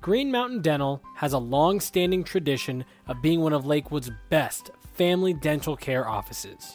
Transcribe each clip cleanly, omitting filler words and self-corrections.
Green Mountain Dental has a long-standing tradition of being one of Lakewood's best family dental care offices.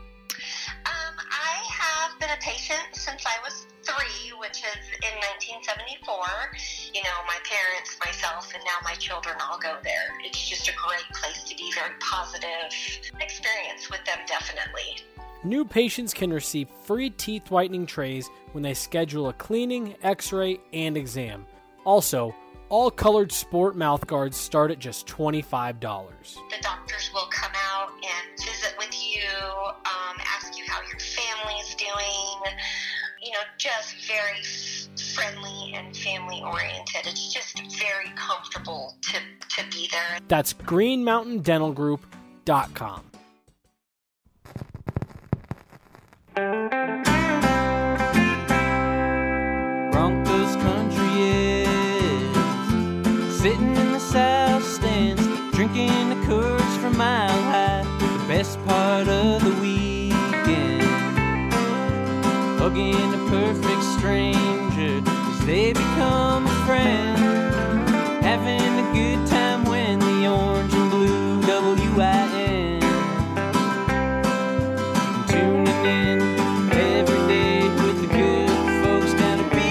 I have been a patient since I was 3, which is in 1974. You know, my parents, myself, and now my children all go there. It's just a great place to be, very positive experience with them, definitely. New patients can receive free teeth whitening trays when they schedule a cleaning, x-ray, and exam. Also, all colored sport mouth guards start at just $25. The doctors will come out and visit with you, ask you how your family's doing, you know, just very friendly and family-oriented. It's just very comfortable to be there. That's greenmountaindentalgroup.com. Broncos country is sitting in the south stands, drinking the Coors from Mile High. The best part of the weekend, hugging a perfect stranger as they become a friend, having a good time when the orange and blue WIN, tuning in every day with the good folks down at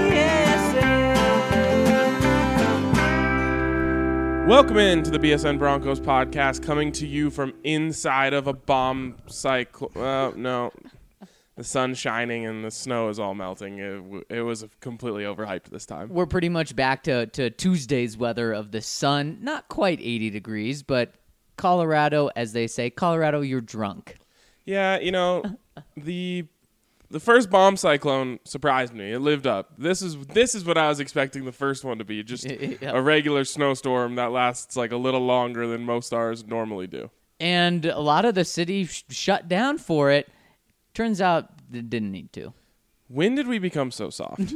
BSN. Welcome into the BSN Broncos podcast, coming to you from inside of a bomb cyclone. No, the sun's shining and the snow is all melting. It was completely overhyped this time. We're pretty much back to Tuesday's weather of the sun. Not quite 80 degrees, but Colorado, as they say, Colorado, you're drunk. Yeah, you know, the first bomb cyclone surprised me. It lived up. This is what I was expecting the first one to be, just a regular snowstorm that lasts like a little longer than most ours normally do. And a lot of the city shut down for it. Turns out it didn't need to. When did we become so soft?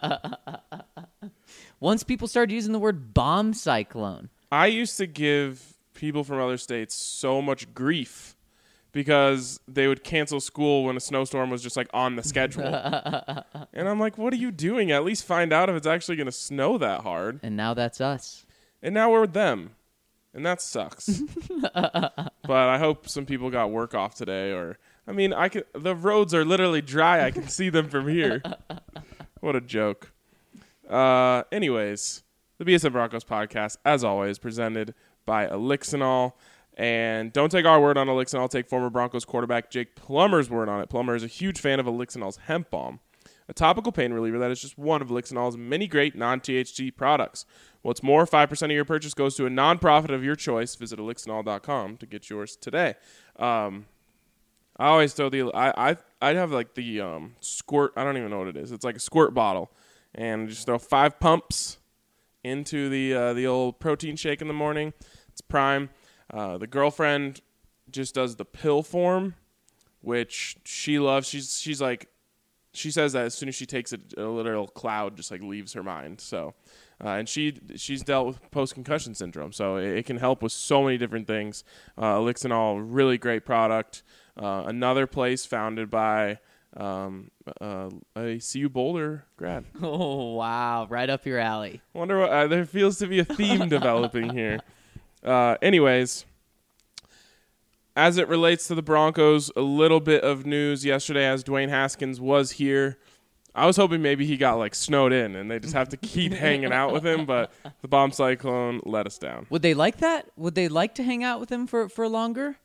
Once people started using the word bomb cyclone. I used to give people from other states so much grief because they would cancel school when a snowstorm was just like on the schedule. And I'm like, what are you doing? At least find out if it's actually going to snow that hard. And now that's us. And now we're with them. And that sucks. But I hope some people got work off today. The roads are literally dry. I can see them from here. What a joke. Anyways, the BSN Broncos podcast, as always, presented by Elixinol. And don't take our word on Elixinol. Take former Broncos quarterback Jake Plummer's word on it. Plummer is a huge fan of Elixinol's hemp balm, a topical pain reliever that is just one of Elixinol's many great non-THC products. What's more, 5% of your purchase goes to a nonprofit of your choice. Visit elixinol.com to get yours today. I always throw I'd have like the squirt. I don't even know what it is. It's like a squirt bottle, and just throw 5 pumps into the old protein shake in the morning. It's prime. The girlfriend just does the pill form, which she loves. She's like, she says that as soon as she takes it, a literal cloud just like leaves her mind. So, and she's dealt with post-concussion syndrome, so it can help with so many different things. Elixinol, really great product. Another place founded by a CU Boulder grad. Oh, wow. Right up your alley. Wonder what there feels to be a theme developing here. Anyways, as it relates to the Broncos, a little bit of news yesterday as Dwayne Haskins was here. I was hoping maybe he got like snowed in and they just have to keep hanging out with him, but the bomb cyclone let us down. Would they like that? Would they like to hang out with him for longer?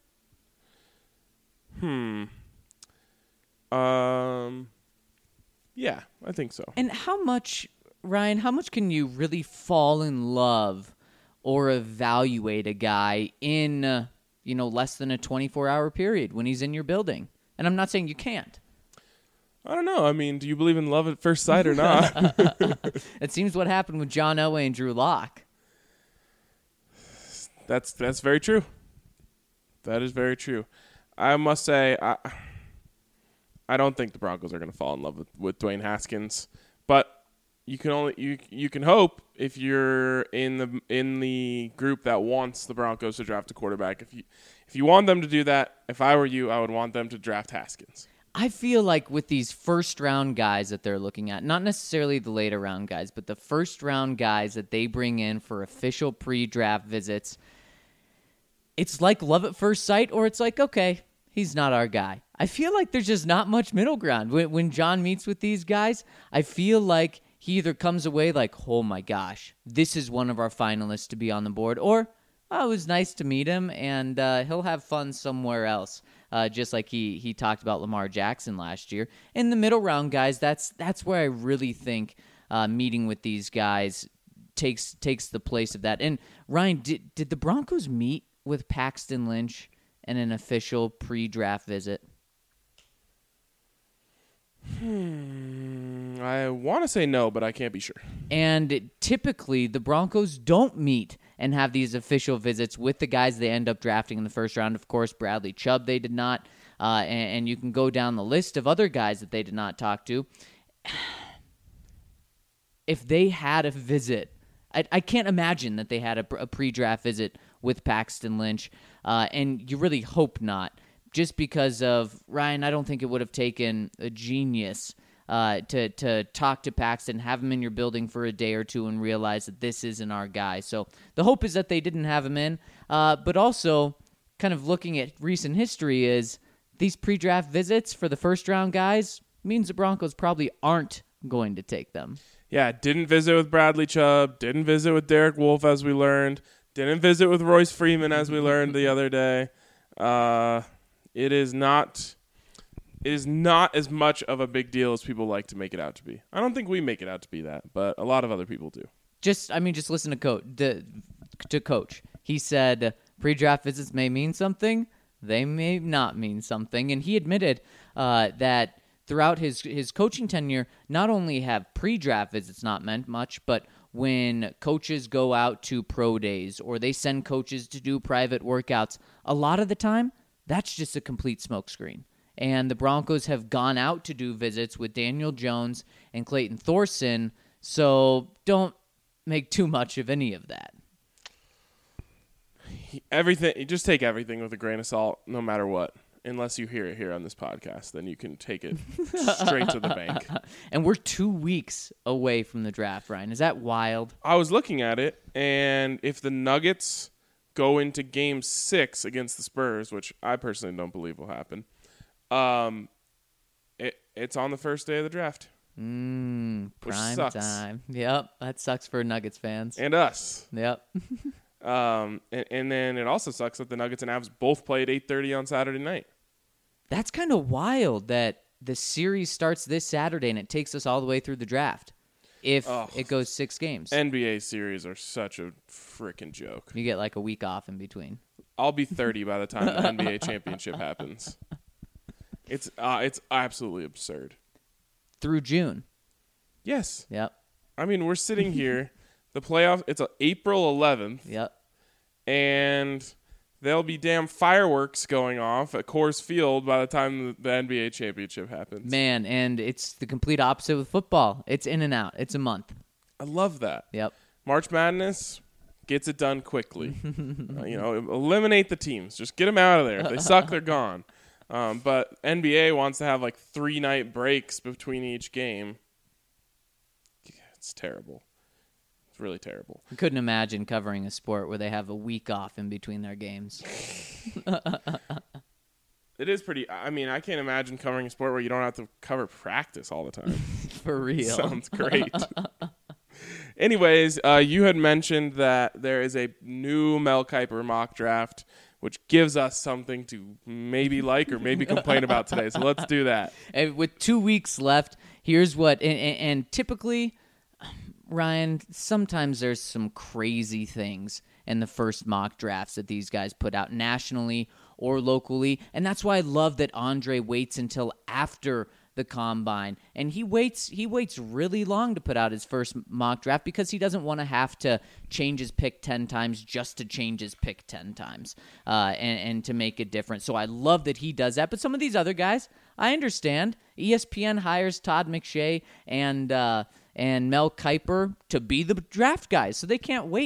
Yeah, I think so. And how much, Ryan, how much can you really fall in love or evaluate a guy in, less than a 24-hour period when he's in your building? And I'm not saying you can't. I don't know. I mean, do you believe in love at first sight or not? It seems what happened with John Elway and Drew Lock. That's very true. That is very true. I must say, I don't think the Broncos are going to fall in love with Dwayne Haskins, but you can hope if you're in the group that wants the Broncos to draft a quarterback. If you want them to do that, if I were you, I would want them to draft Haskins. I feel like with these first-round guys that they're looking at, not necessarily the later-round guys, but the first-round guys that they bring in for official pre-draft visits, it's like love at first sight, or it's like, okay, he's not our guy. I feel like there's just not much middle ground. When John meets with these guys, I feel like he either comes away like, oh my gosh, this is one of our finalists to be on the board, or, oh, it was nice to meet him, and he'll have fun somewhere else. Just like he talked about Lamar Jackson last year. In the middle round guys, that's where I really think meeting with these guys takes the place of that. And Ryan, did the Broncos meet with Paxton Lynch in an official pre-draft visit? I want to say no, but I can't be sure. And typically, the Broncos don't meet and have these official visits with the guys they end up drafting in the first round. Of course, Bradley Chubb, they did not. And you can go down the list of other guys that they did not talk to. If they had a visit, I can't imagine that they had a pre-draft visit with Paxton Lynch. And you really hope not. Just because of, Ryan, I don't think it would have taken a genius to talk to Paxton, have him in your building for a day or two, and realize that this isn't our guy. So the hope is that they didn't have him in. But also, kind of looking at recent history, is these pre-draft visits for the first-round guys means the Broncos probably aren't going to take them. Yeah, didn't visit with Bradley Chubb, didn't visit with Derek Wolfe, as we learned, didn't visit with Royce Freeman, as we learned the other day. It is not as much of a big deal as people like to make it out to be. I don't think we make it out to be that, but a lot of other people do. Just listen to Coach. He said pre-draft visits may mean something. They may not mean something. And he admitted that throughout his coaching tenure, not only have pre-draft visits not meant much, but when coaches go out to pro days or they send coaches to do private workouts, a lot of the time, that's just a complete smokescreen. And the Broncos have gone out to do visits with Daniel Jones and Clayton Thorson, so don't make too much of any of that. You just take everything with a grain of salt, no matter what. Unless you hear it here on this podcast, then you can take it straight to the bank. And we're 2 weeks away from the draft, Ryan. Is that wild? I was looking at it, and if the Nuggets go into Game 6 against the Spurs, which I personally don't believe will happen, it's on the first day of the draft. Prime time. Yep, that sucks for Nuggets fans. And us. Yep. And then it also sucks that the Nuggets and Avs both play at 8:30 on Saturday night. That's kind of wild that the series starts this Saturday and it takes us all the way through the draft. If it goes 6 games. NBA series are such a freaking joke. You get like a week off in between. I'll be 30 by the time the NBA championship happens. It's absolutely absurd. Through June. Yes. Yep. I mean, we're sitting here. The playoff, it's April 11th. Yep. And there'll be damn fireworks going off at Coors Field by the time the NBA championship happens. Man, and it's the complete opposite with football. It's in and out. It's a month. I love that. Yep. March Madness gets it done quickly. Eliminate the teams. Just get them out of there. If they suck, they're gone. But NBA wants to have like 3-night breaks between each game. Yeah, it's terrible. It's really terrible. I couldn't imagine covering a sport where they have a week off in between their games. It is pretty. I mean, I can't imagine covering a sport where you don't have to cover practice all the time. For real. Sounds great. Anyways, you had mentioned that there is a new Mel Kiper mock draft, which gives us something to maybe like or maybe complain about today. So let's do that. And with 2 weeks left, here's what, and typically, Ryan, sometimes there's some crazy things in the first mock drafts that these guys put out nationally or locally, and that's why I love that Andre waits until after the combine, and he waits really long to put out his first mock draft because he doesn't want to have to change his pick 10 times just to change his pick 10 times and to make it different. So I love that he does that. But some of these other guys, I understand. ESPN hires Todd McShay and Mel Kiper to be the draft guys, so they can't wait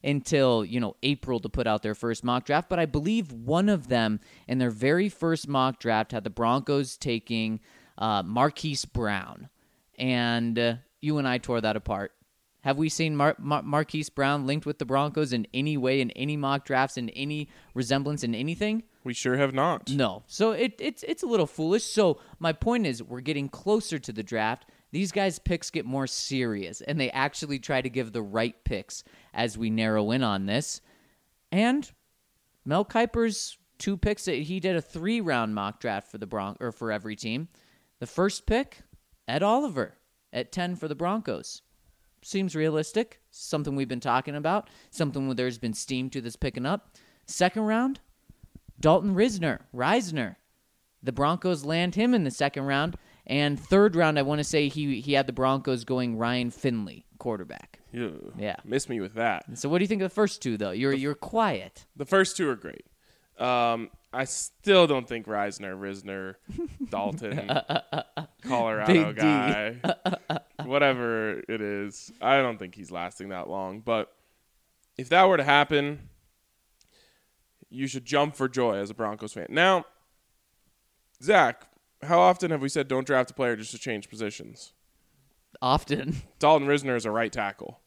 until, April to put out their first mock draft. But I believe one of them in their very first mock draft had the Broncos taking Marquise Brown. And you and I tore that apart. Have we seen Marquise Brown linked with the Broncos in any way, in any mock drafts, in any resemblance, in anything? We sure have not. No. So it's a little foolish. So my point is, we're getting closer to the draft. These guys' picks get more serious, and they actually try to give the right picks as we narrow in on this. And Mel Kiper's 2 picks, he did a 3-round mock draft for for every team. The first pick, Ed Oliver at 10 for the Broncos. Seems realistic. Something we've been talking about. Something where there's been steam to this picking up. Second round, Dalton Reisner. The Broncos land him in the second round. And third round, I want to say he had the Broncos going Ryan Finley, quarterback. Ew. Yeah. Miss me with that. So what do you think of the first 2, though? You're quiet. The first 2 are great. I still don't think Risner, Dalton, Colorado Big D. guy, whatever it is, I don't think he's lasting that long. But if that were to happen, you should jump for joy as a Broncos fan. Now, Zach, how often have we said don't draft a player just to change positions? Often. Dalton Risner is a right tackle.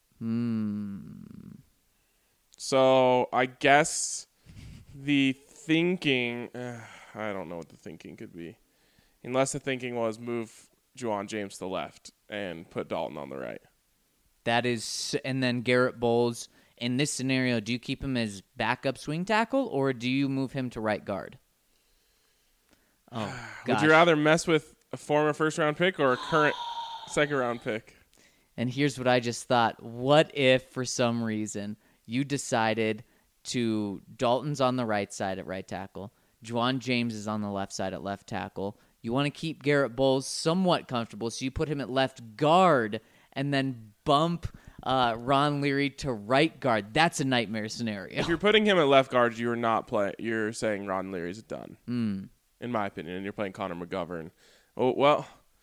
So I guess the thinking, I don't know what the thinking could be. Unless the thinking was move Juwan James to the left and put Dalton on the right. That is, and then Garrett Bowles. In this scenario, do you keep him as backup swing tackle, or do you move him to right guard? Oh, gosh. Would you rather mess with a former first-round pick or a current second-round pick? And here's what I just thought. What if, for some reason, you decided to Dalton's on the right side at right tackle, Juwan James is on the left side at left tackle. You want to keep Garrett Bowles somewhat comfortable, so you put him at left guard and then bump Ron Leary to right guard. That's a nightmare scenario. If you're putting him at left guard, you're not playing. You're saying Ron Leary's done, in my opinion, and you're playing Connor McGovern. Oh well.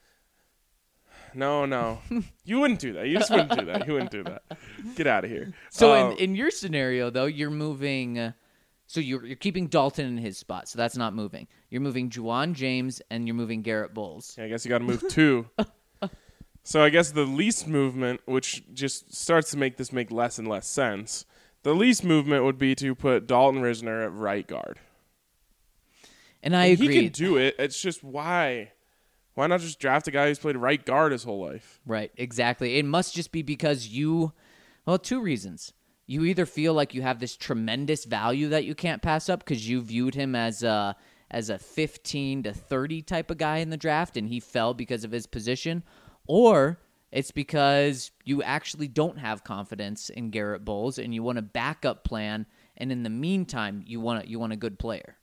No. You wouldn't do that. You just wouldn't do that. You wouldn't do that. Get out of here. So in your scenario, though, you're moving. So you're keeping Dalton in his spot. So that's not moving. You're moving Juwan James and you're moving Garrett Bowles. I guess you got to move 2. So I guess the least movement, which just starts to make this make less and less sense, the least movement would be to put Dalton Risner at right guard. And I agree. He can do it. It's just why. Why not just draft a guy who's played right guard his whole life? Right, exactly. It must just be because 2 reasons. You either feel like you have this tremendous value that you can't pass up because you viewed him as a 15 to 30 type of guy in the draft and he fell because of his position, or it's because you actually don't have confidence in Garrett Bowles and you want a backup plan, and in the meantime, you want a good player.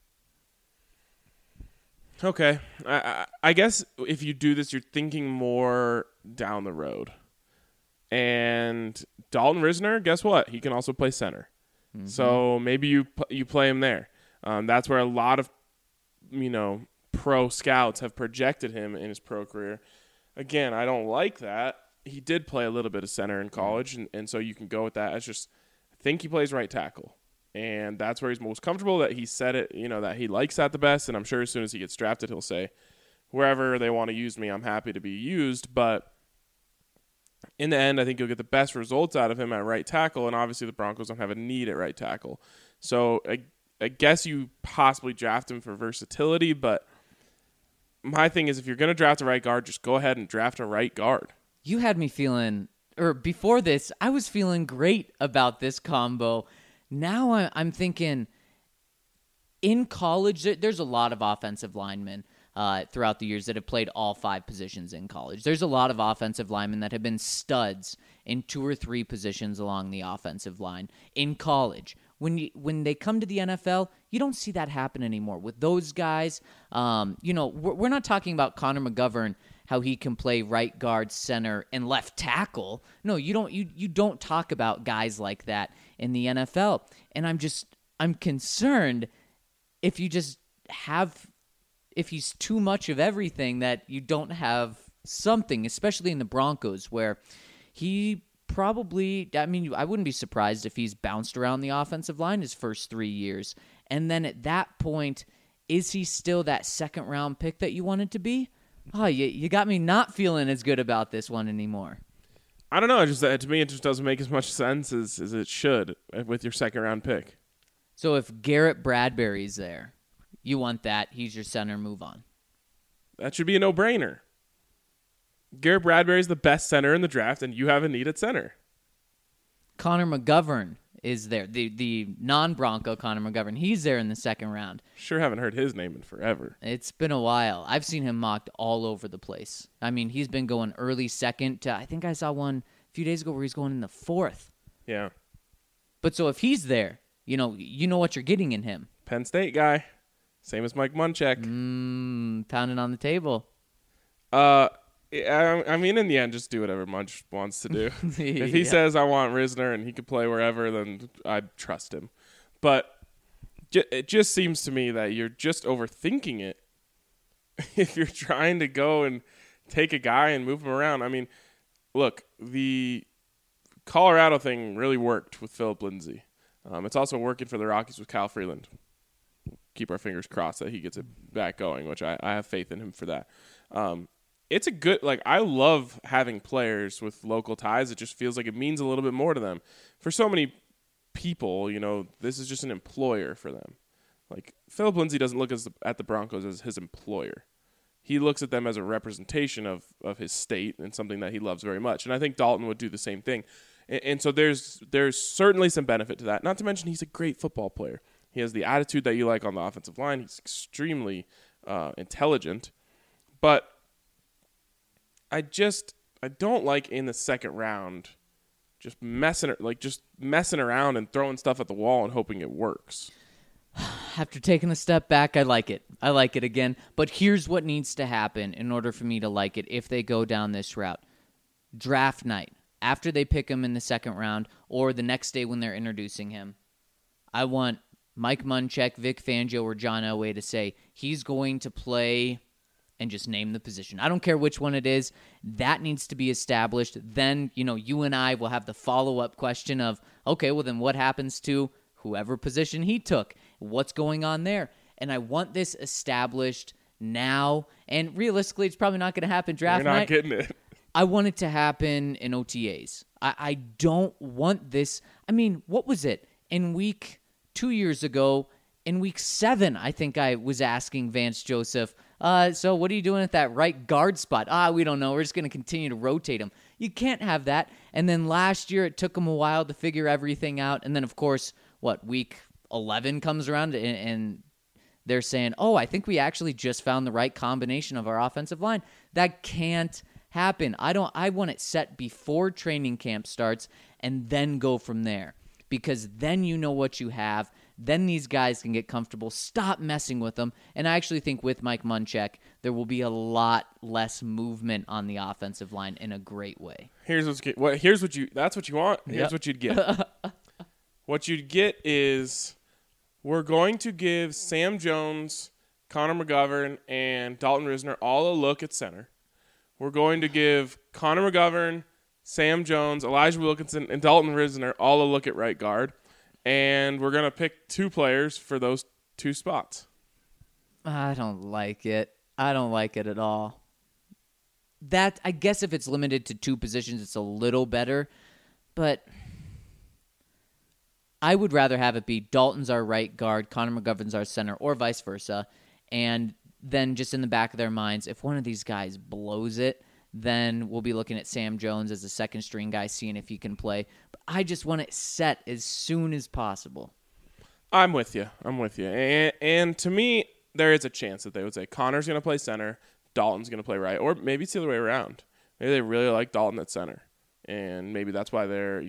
Okay. I guess if you do this, you're thinking more down the road. And Dalton Risner, guess what? He can also play center. Mm-hmm. So maybe you play him there. That's where a lot of, pro scouts have projected him in his pro career. Again, I don't like that. He did play a little bit of center in college, and so you can go with that. I think he plays right tackle. And that's where he's most comfortable, that he said it, that he likes that the best. And I'm sure as soon as he gets drafted, he'll say, wherever they want to use me, I'm happy to be used. But in the end, I think you'll get the best results out of him at right tackle. And obviously the Broncos don't have a need at right tackle. So I guess you possibly draft him for versatility. But my thing is, if you're going to draft a right guard, just go ahead and draft a right guard. You had me feeling, or before this, I was feeling great about this combo. Now I'm thinking, in college, there's a lot of offensive linemen throughout the years that have played all 5 positions in college. There's a lot of offensive linemen that have been studs in 2 or 3 positions along the offensive line in college. When they come to the NFL, you don't see that happen anymore. With those guys, we're not talking about Connor McGovern, how he can play right guard, center, and left tackle. No, you don't. You don't talk about guys like that in the NFL. And I'm concerned if he's too much of everything, that you don't have something, especially in the Broncos, where he probably, I mean, I wouldn't be surprised if he's bounced around the offensive line his first 3 years. And then at that point, is he still that second-round pick that you wanted to be? Oh, you got me not feeling as good about this one anymore. I don't know. To me, it just doesn't make as much sense as it should with your second-round pick. So if Garrett Bradbury's there, you want that. He's your center. Move on. That should be a no-brainer. Garrett Bradbury's the best center in the draft, and you have a need at center. Connor McGovern is there. The non-Bronco Connor McGovern. He's there in the second round. Sure haven't heard his name in forever. It's been a while. I've seen him mocked all over the place. I mean, he's been going early second to, I think I saw one a few days ago where he's going in the fourth. Yeah. But so if he's there, you know what you're getting in him. Penn State guy. Same as Mike Munchak. Pounding on the table. I mean, in the end, just do whatever Munch wants to do. If he says, I want Risner and he can play wherever, then I'd trust him. But it just seems to me that you're just overthinking it if you're trying to go and take a guy and move him around. I mean, look, the Colorado thing really worked with Phillip Lindsay. It's also working for the Rockies with Kyle Freeland. Keep our fingers crossed that he gets it back going, which I have faith in him for that. It's a good, I love having players with local ties. It just feels like it means a little bit more to them. For so many people, this is just an employer for them. Like, Phillip Lindsay doesn't look at the Broncos as his employer. He looks at them as a representation of his state and something that he loves very much. And I think Dalton would do the same thing. And so there's certainly some benefit to that. Not to mention he's a great football player. He has the attitude that you like on the offensive line. He's extremely intelligent. But I don't like in the second round just messing around and throwing stuff at the wall and hoping it works. After taking a step back, I like it. I like it again. But here's what needs to happen in order for me to like it if they go down this route. Draft night, after they pick him in the second round or the next day when they're introducing him, I want Mike Munchak, Vic Fangio, or John Elway to say he's going to play and just name the position. I don't care which one it is. That needs to be established. Then, you and I will have the follow-up question of, okay, well then what happens to whoever position he took? What's going on there? And I want this established now. And realistically, it's probably not going to happen draft night. You're not getting it. I want it to happen in OTAs. I don't want this. I mean, what was it? In week 2 years ago, in week 7, I think I was asking Vance Joseph, so what are you doing at that right guard spot? We don't know. We're just going to continue to rotate him. You can't have that. And then last year, it took him a while to figure everything out. And then, of course, week 11 comes around and they're saying, I think we actually just found the right combination of our offensive line. That can't happen. I want it set before training camp starts and then go from there. Because then you know what you have. Then these guys can get comfortable. Stop messing with them. And I actually think with Mike Munchak, there will be a lot less movement on the offensive line in a great way. That's what you want. Here's what you'd get. What you'd get is we're going to give Sam Jones, Connor McGovern, and Dalton Risner all a look at center. We're going to give Connor McGovern, Sam Jones, Elijah Wilkinson, and Dalton Risner all a look at right guard. And we're going to pick 2 players for those 2 spots. I don't like it. I don't like it at all. That, I guess if it's limited to 2 positions, it's a little better. But I would rather have it be Dalton's our right guard, Connor McGovern's our center, or vice versa. And then just in the back of their minds, if one of these guys blows it, then we'll be looking at Sam Jones as a second-string guy, seeing if he can play. But I just want it set as soon as possible. I'm with you. And to me, there is a chance that they would say Connor's going to play center, Dalton's going to play right, or maybe it's the other way around. Maybe they really like Dalton at center, and maybe that's why they're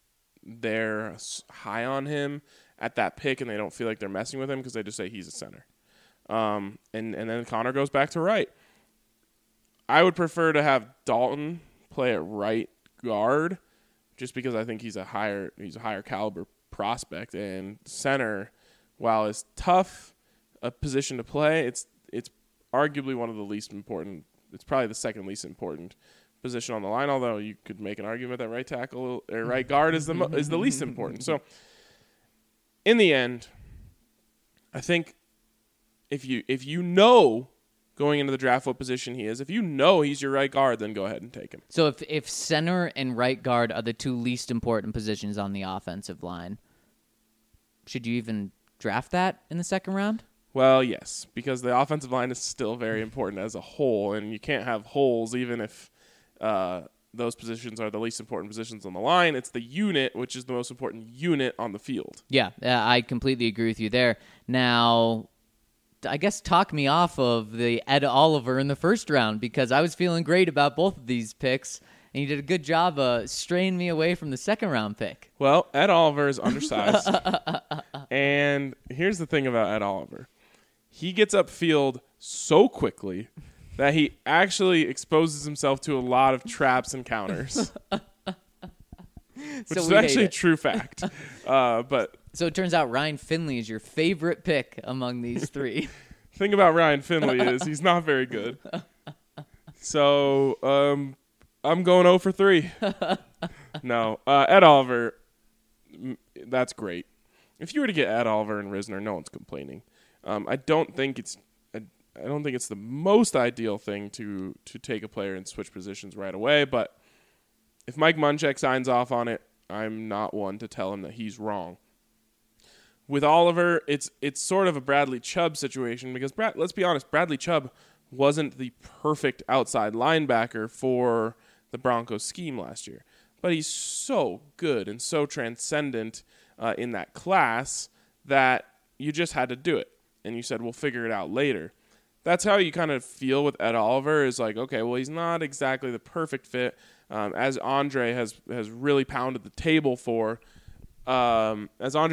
high on him at that pick, and they don't feel like they're messing with him because they just say he's a center. And then Connor goes back to right. I would prefer to have Dalton play at right guard just because I think he's a higher caliber prospect, and center, while it's tough a position to play, it's arguably one of the least important. It's probably the second least important position on the line, although you could make an argument that right tackle or right guard is the least important. So in the end, I think if you know going into the draft what position he is, if you know he's your right guard, then go ahead and take him. So if center and right guard are the two least important positions on the offensive line, should you even draft that in the second round? Well, yes, because the offensive line is still very important as a whole, and you can't have holes even if those positions are the least important positions on the line. It's the unit, which is the most important unit on the field. Yeah, I completely agree with you there. Now, I guess talk me off of the Ed Oliver in the first round, because I was feeling great about both of these picks, and you did a good job straying me away from the second round pick. Well, Ed Oliver is undersized. And here's the thing about Ed Oliver. He gets upfield so quickly that he actually exposes himself to a lot of traps and counters. Which is actually a true fact. So it turns out Ryan Finley is your favorite pick among these three. The thing about Ryan Finley is he's not very good. So I'm going 0 for 3. No, Ed Oliver, that's great. If you were to get Ed Oliver and Risner, no one's complaining. I don't think it's the most ideal thing to take a player and switch positions right away, but if Mike Munchak signs off on it, I'm not one to tell him that he's wrong. With Oliver, it's sort of a Bradley Chubb situation because let's be honest, Bradley Chubb wasn't the perfect outside linebacker for the Broncos scheme last year, but he's so good and so transcendent in that class that you just had to do it, and you said we'll figure it out later. That's how you kind of feel with Ed Oliver is like, okay, well, he's not exactly the perfect fit, as Andre has really pounded the table for. The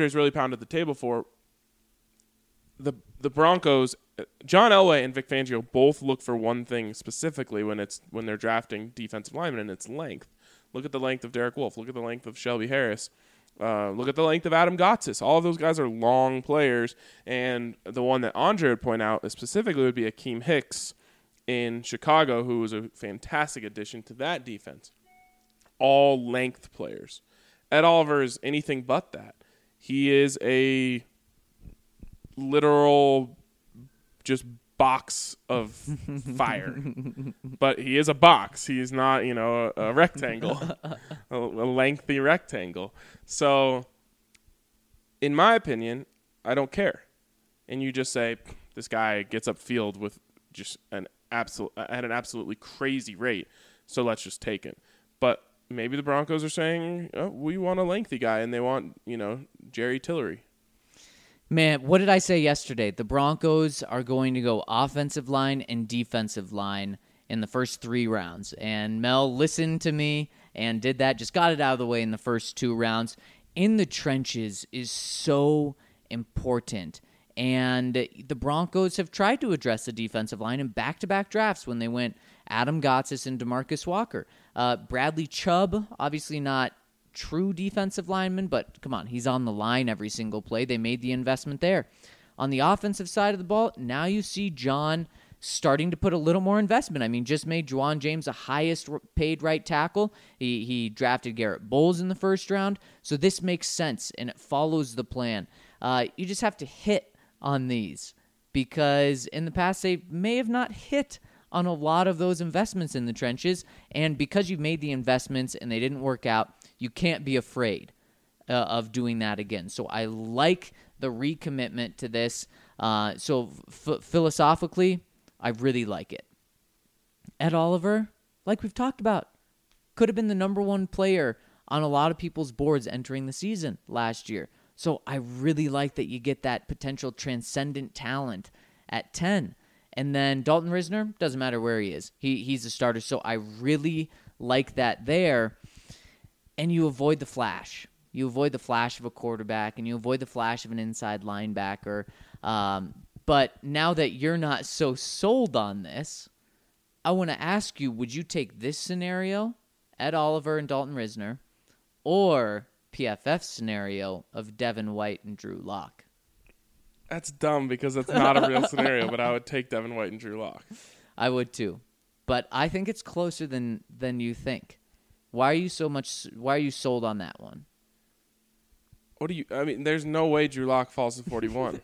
Broncos, John Elway and Vic Fangio both look for one thing specifically when they're drafting defensive linemen, and it's length. Look at the length of Derek Wolfe. Look at the length of Shelby Harris. Look at the length of Adam Gotsis. All of those guys are long players, and the one that Andre would point out specifically would be Akeem Hicks in Chicago, who was a fantastic addition to that defense. All length players. Ed Oliver is anything but that. He is a literal just box of fire. But he is a box. He's not, a rectangle, a lengthy rectangle. So, in my opinion, I don't care. And you just say, this guy gets upfield with just at an absolutely crazy rate, so let's just take him. But maybe the Broncos are saying, oh, we want a lengthy guy, and they want, Jerry Tillery. Man, what did I say yesterday? The Broncos are going to go offensive line and defensive line in the first 3 rounds. And Mel listened to me and did that, just got it out of the way in the first 2 rounds. In the trenches is so important. And the Broncos have tried to address the defensive line in back-to-back drafts when they went Adam Gotsis and DeMarcus Walker. Bradley Chubb, obviously not true defensive lineman, but come on, he's on the line every single play. They made the investment there. On the offensive side of the ball, now you see John starting to put a little more investment. I mean, just made Juwan James the highest paid right tackle. He drafted Garrett Bowles in the first round. So this makes sense, and it follows the plan. You just have to hit on these, because in the past they may have not hit on a lot of those investments in the trenches, and because you've made the investments and they didn't work out, you can't be afraid of doing that again. So I like the recommitment to this. Philosophically, I really like it. Ed Oliver, like we've talked about, could have been the number 1 player on a lot of people's boards entering the season last year. So I really like that you get that potential transcendent talent at 10. And then Dalton Risner, doesn't matter where he is. He's a starter. So I really like that there. And you avoid the flash. You avoid the flash of a quarterback, and you avoid the flash of an inside linebacker. But now that you're not so sold on this, I want to ask you, would you take this scenario, Ed Oliver and Dalton Risner, or PFF scenario of Devin White and Drew Lock? That's dumb because that's not a real scenario, but I would take Devin White and Drew Lock. I would too. but I think it's closer than you think. Why are you sold on that one? I mean, there's no way Drew Lock falls to 41.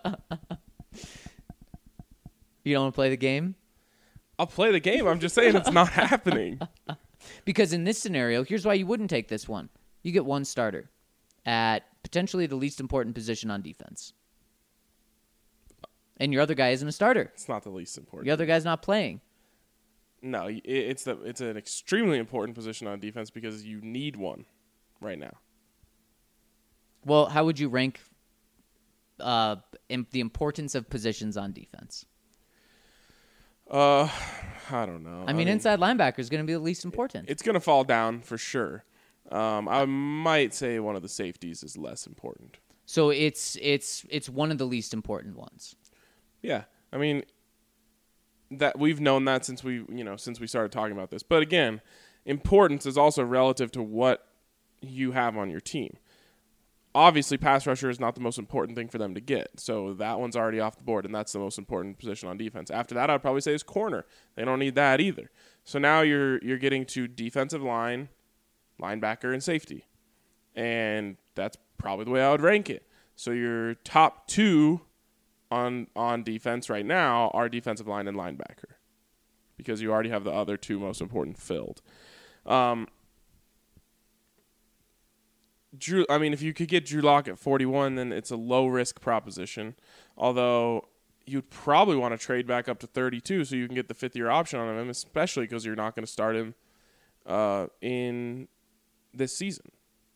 You don't want to play the game? I'll play the game. I'm just saying it's not happening. Because in this scenario, here's why you wouldn't take this one. You get one starter at potentially the least important position on defense. And your other guy isn't a starter. It's not the least important. Your other guy's not playing. No, it's an extremely important position on defense because you need one right now. Well, how would you rank the importance of positions on defense? I don't know. I mean, inside linebacker is going to be the least important. It's going to fall down for sure. I might say one of the safeties is less important. So it's one of the least important ones. Yeah, I mean that we've known that since we started talking about this. But again, importance is also relative to what you have on your team. Obviously, pass rusher is not the most important thing for them to get, so that one's already off the board, and that's the most important position on defense. After that, I'd probably say is corner. They don't need that either. So now you're getting to defensive line, linebacker, and safety, and that's probably the way I would rank it. So your top two on defense right now are defensive line and linebacker because you already have the other two most important filled. Drew, I mean, if you could get Drew Lock at 41, then it's a low-risk proposition, although you'd probably want to trade back up to 32 so you can get the fifth-year option on him, especially because you're not going to start him in this season.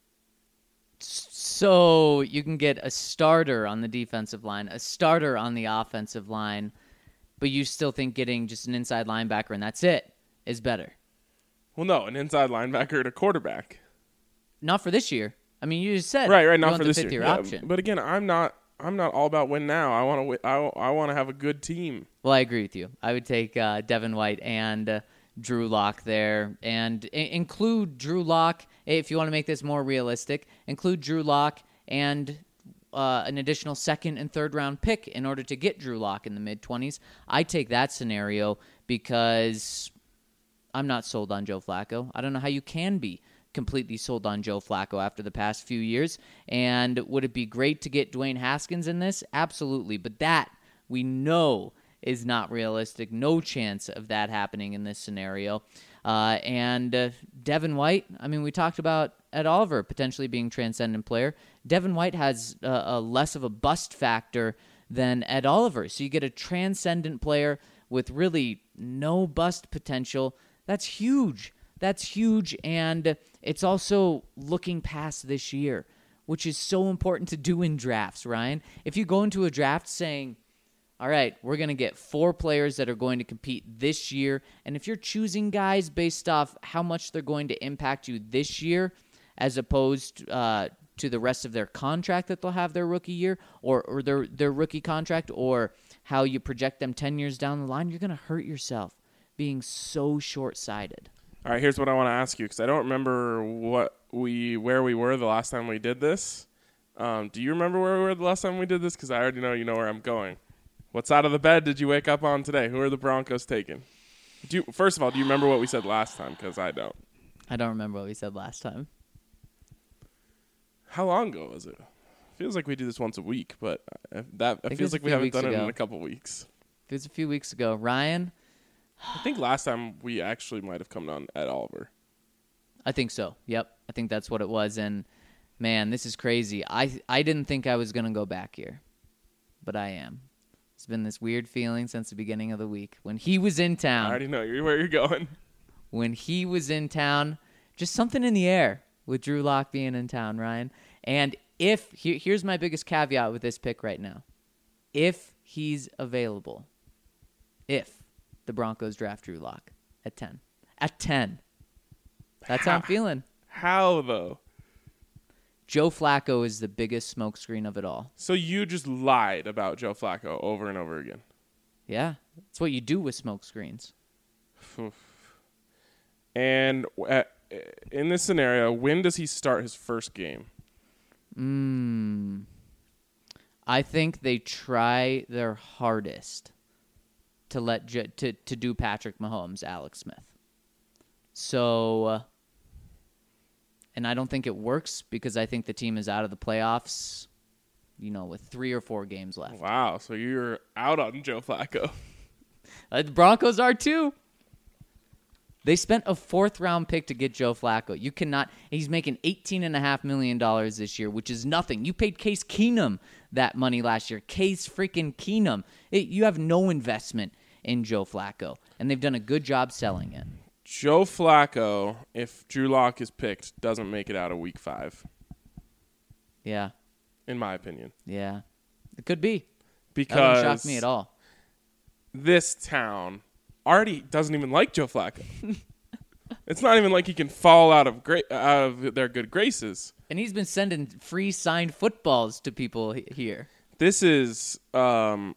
So you can get a starter on the defensive line, a starter on the offensive line, but you still think getting just an inside linebacker and that's it is better. Well, no, an inside linebacker and a quarterback. Not for this year. I mean, you just said right, not for this year. Yeah, Option. but again, I'm not all about win now. I want to I want to have a good team. Well, I agree with you. I would take Devin White and Drew Lock there, and include Drew Lock if you want to make this more realistic. Include Drew Lock and an additional second and third round pick in order to get Drew Lock in the mid-20s. I take that scenario because I'm not sold on Joe Flacco. I don't know how you can be completely sold on Joe Flacco after the past few years. And would it be great to get Dwayne Haskins in this? Absolutely. But that we know is not realistic. No chance of that happening in this scenario. And Devin White, I mean, we talked about Ed Oliver potentially being a transcendent player. Devin White has a less of a bust factor than Ed Oliver. So you get a transcendent player with really no bust potential. That's huge. That's huge, and it's also looking past this year, which is so important to do in drafts, Ryan. If you go into a draft saying, all right, we're going to get 4 players that are going to compete this year, and if you're choosing guys based off how much they're going to impact you this year as opposed to the rest of their contract that they'll have their rookie year or their rookie contract or how you project them 10 years down the line, you're going to hurt yourself being so short-sighted. All right, here's what I want to ask you because I don't remember where we were the last time we did this. Do you remember where we were the last time we did this? Because I already know you know where I'm going. What side of the bed did you wake up on today? Who are the Broncos taking? First of all, do you remember what we said last time? Because I don't. I don't remember what we said last time. How long ago was it? Feels like we do this once a week, but it feels like we haven't done it in a couple weeks. It was a few weeks ago. Ryan? I think last time we actually might have come on Ed Oliver. I think so. Yep. I think that's what it was. And, man, this is crazy. I didn't think I was going to go back here, but I am. It's been this weird feeling since the beginning of the week. When he was in town. I already know where you're going. When he was in town, just something in the air with Drew Lock being in town, Ryan. And here's my biggest caveat with this pick right now. If he's available, if the Broncos draft Drew Lock at 10. At 10. That's how I'm feeling. How, though? Joe Flacco is the biggest smokescreen of it all. So you just lied about Joe Flacco over and over again. Yeah. That's what you do with smokescreens. And in this scenario, when does he start his first game? I think they try their hardest to do Patrick Mahomes, Alex Smith. So, and I don't think it works because I think the team is out of the playoffs, with 3 or 4 games left. Wow, so you're out on Joe Flacco. The Broncos are too. They spent a 4th-round pick to get Joe Flacco. You cannot. He's making $18.5 million this year, which is nothing. You paid Case Keenum that money last year. Case freaking Keenum. You have no investment in Joe Flacco, and they've done a good job selling it. Joe Flacco, if Drew Lock is picked, doesn't make it out of Week 5. Yeah. In my opinion. Yeah. It could be. Because that wouldn't shock me at all. This town already doesn't even like Joe Flacco. It's not even like he can fall out of their good graces. And he's been sending free signed footballs to people here. This would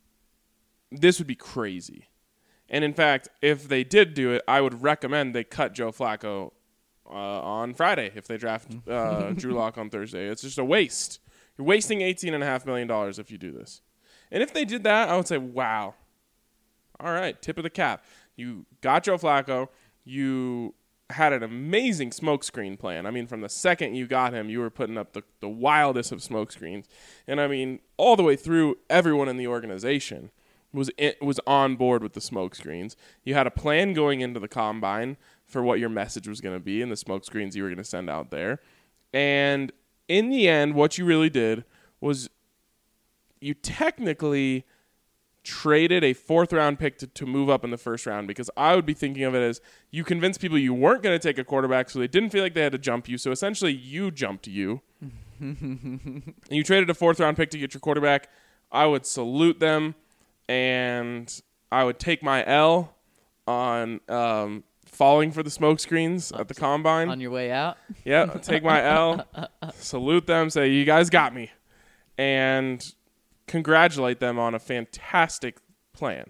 be crazy. And in fact, if they did do it, I would recommend they cut Joe Flacco on Friday if they draft Drew Lock on Thursday. It's just a waste. You're wasting $18.5 million if you do this. And if they did that, I would say, wow. All right, tip of the cap. You got Joe Flacco. You had an amazing smokescreen plan. I mean, from the second you got him, you were putting up the wildest of smokescreens. And I mean, all the way through, everyone in the organization was on board with the smokescreens. You had a plan going into the combine for what your message was going to be and the smokescreens you were going to send out there. And in the end, what you really did was you technically traded a 4th-round pick to move up in the 1st round, because I would be thinking of it as you convinced people you weren't going to take a quarterback, so they didn't feel like they had to jump you. So essentially, you jumped you. And you traded a 4th-round pick to get your quarterback. I would salute them, and I would take my L on falling for the smokescreens at the combine. On your way out? Yeah, take my L, salute them, say, you guys got me, and congratulate them on a fantastic plan.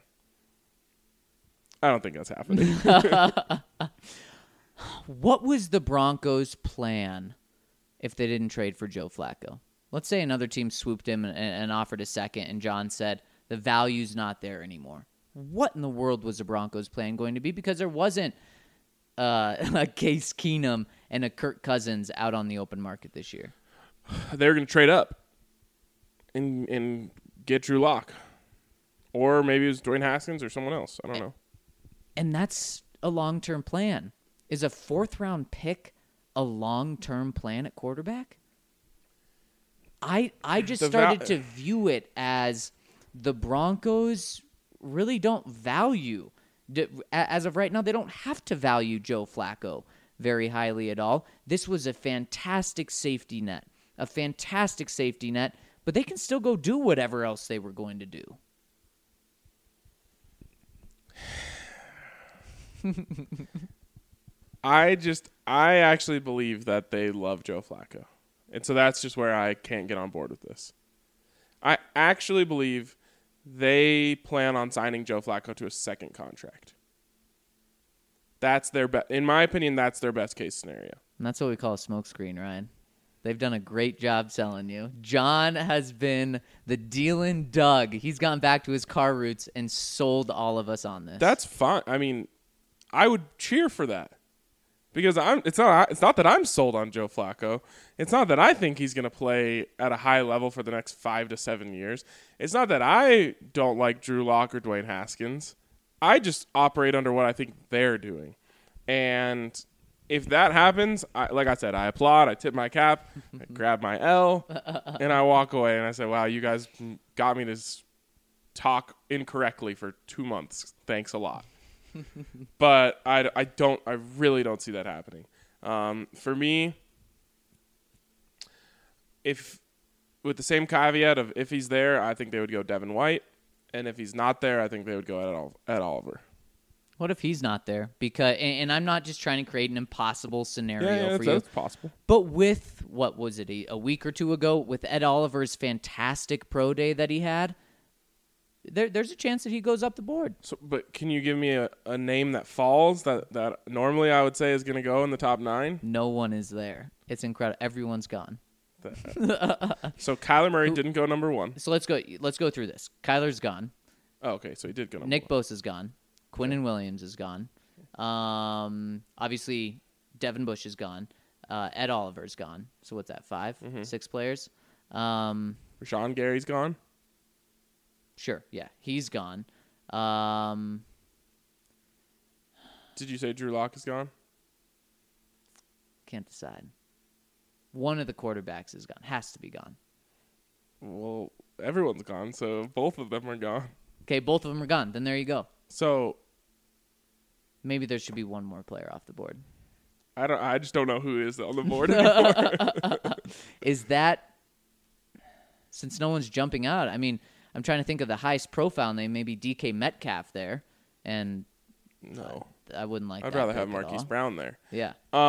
I don't think that's happening. What was the Broncos' plan if they didn't trade for Joe Flacco? Let's say another team swooped him and offered a 2nd, and John said, the value's not there anymore. What in the world was the Broncos' plan going to be? Because there wasn't a Case Keenum and a Kirk Cousins out on the open market this year. They're going to trade up and get Drew Lock. Or maybe it was Dwayne Haskins or someone else. I don't know. And that's a long-term plan. Is a 4th-round pick a long-term plan at quarterback? I just started to view it as the Broncos really don't value. As of right now, they don't have to value Joe Flacco very highly at all. This was a fantastic safety net. But they can still go do whatever else they were going to do. I actually believe that they love Joe Flacco. And so that's just where I can't get on board with this. I actually believe they plan on signing Joe Flacco to a 2nd contract. That's their in my opinion, that's their best case scenario. And that's what we call a smokescreen, Ryan. They've done a great job selling you. John has been the dealin' Doug. He's gone back to his car roots and sold all of us on this. That's fine. I mean, I would cheer for that. Because it's not that I'm sold on Joe Flacco. It's not that I think he's going to play at a high level for the next 5 to 7 years. It's not that I don't like Drew Lock or Dwayne Haskins. I just operate under what I think they're doing. And if that happens, like I said, I applaud, I tip my cap, I grab my L, and I walk away. And I say, wow, you guys got me to talk incorrectly for 2 months. Thanks a lot. But I really don't see that happening. For me, with the same caveat of if he's there, I think they would go Devin White. And if he's not there, I think they would go Ed Oliver. What if he's not there? Because and I'm not just trying to create an impossible scenario for you. That's possible. But with, what was it, a week or two ago, with Ed Oliver's fantastic pro day that he had, there's a chance that he goes up the board. So, but can you give me a name that falls that normally I would say is going to go in the top 9? No one is there. It's incredible. Everyone's gone. So Kyler Murray didn't go number 1. So let's go through this. Kyler's gone. Oh, okay, so he did go number Nick one. Bosa's gone. Quinnen Williams is gone. Obviously, Devin Bush is gone. Ed Oliver's gone. So what's that, 5? 6 players? Rashawn Gary's gone. Sure, yeah, he's gone. Did you say Drew Lock is gone? Can't decide. One of the quarterbacks is gone. Has to be gone. Well, everyone's gone, so both of them are gone. Okay, both of them are gone. Then there you go. So Maybe there should be one more player off the board. I just don't know who is on the board anymore. Is that, since no one's jumping out, I mean, I'm trying to think of the highest profile name, maybe DK Metcalf there, and No. I wouldn't like I'd that rather pick have at Marquise all. Brown there. Yeah.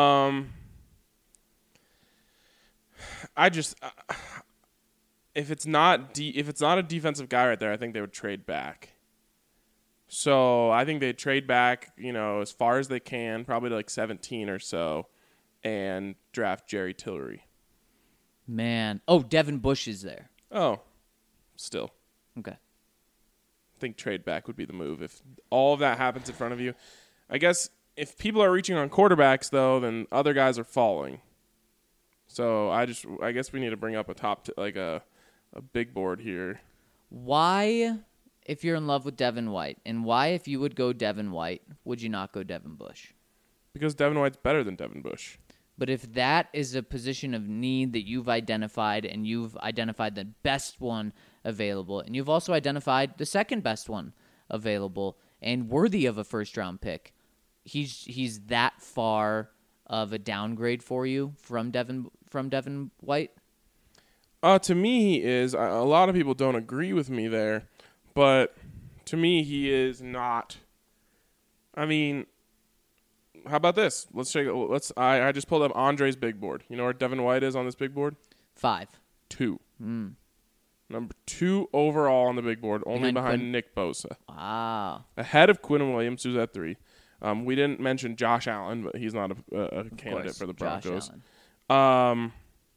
I just if it's not a defensive guy right there, I think they would trade back. So I think they'd trade back, as far as they can, probably to like 17 or so, and draft Jerry Tillery. Man. Oh, Devin Bush is there. Oh, still. Okay. I think trade back would be the move if all of that happens in front of you. I guess if people are reaching on quarterbacks, though, then other guys are falling. So I guess we need to bring up a big board here. Why, if you're in love with Devin White, and why, if you would go Devin White, would you not go Devin Bush? Because Devin White's better than Devin Bush. But if that is a position of need that you've identified, and you've identified the best one available, and you've also identified the second best one available and worthy of a first-round pick, he's that far of a downgrade for you from Devin White? To me, he is. A lot of people don't agree with me there, but to me, he is not. I mean, how about this? I just pulled up Andre's big board. You know where Devin White is on this big board? 5. 2. Number 2 overall on the big board, only behind Quinn? Nick Bosa. Wow. Ahead of Quinnen Williams, who's at 3. We didn't mention Josh Allen, but he's not a candidate for the Broncos. Josh Allen.